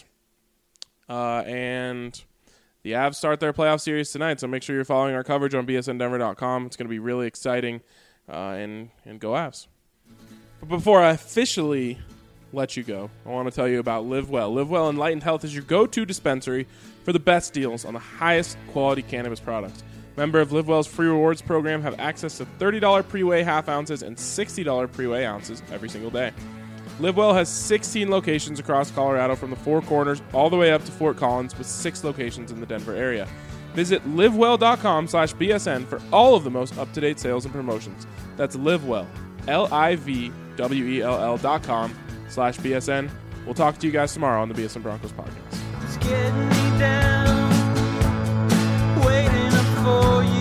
And the Avs start their playoff series tonight, so make sure you're following our coverage on bsndenver.com. It's going to be really exciting, and go Avs. But before I officially let you go, I want to tell you about Live Well. Live Well Enlightened Health is your go-to dispensary for the best deals on the highest quality cannabis products. Member of Live Well's free rewards program have access to $30 pre-weigh half ounces and $60 pre-weigh ounces every single day. Live Well has 16 locations across Colorado from the Four Corners all the way up to Fort Collins, with 6 locations in the Denver area. Visit livewell.com /BSN for all of the most up-to-date sales and promotions. That's livewell, LIVWELL.com /BSN. We'll talk to you guys tomorrow on the BSN Broncos podcast. It's getting me down, waiting up for you.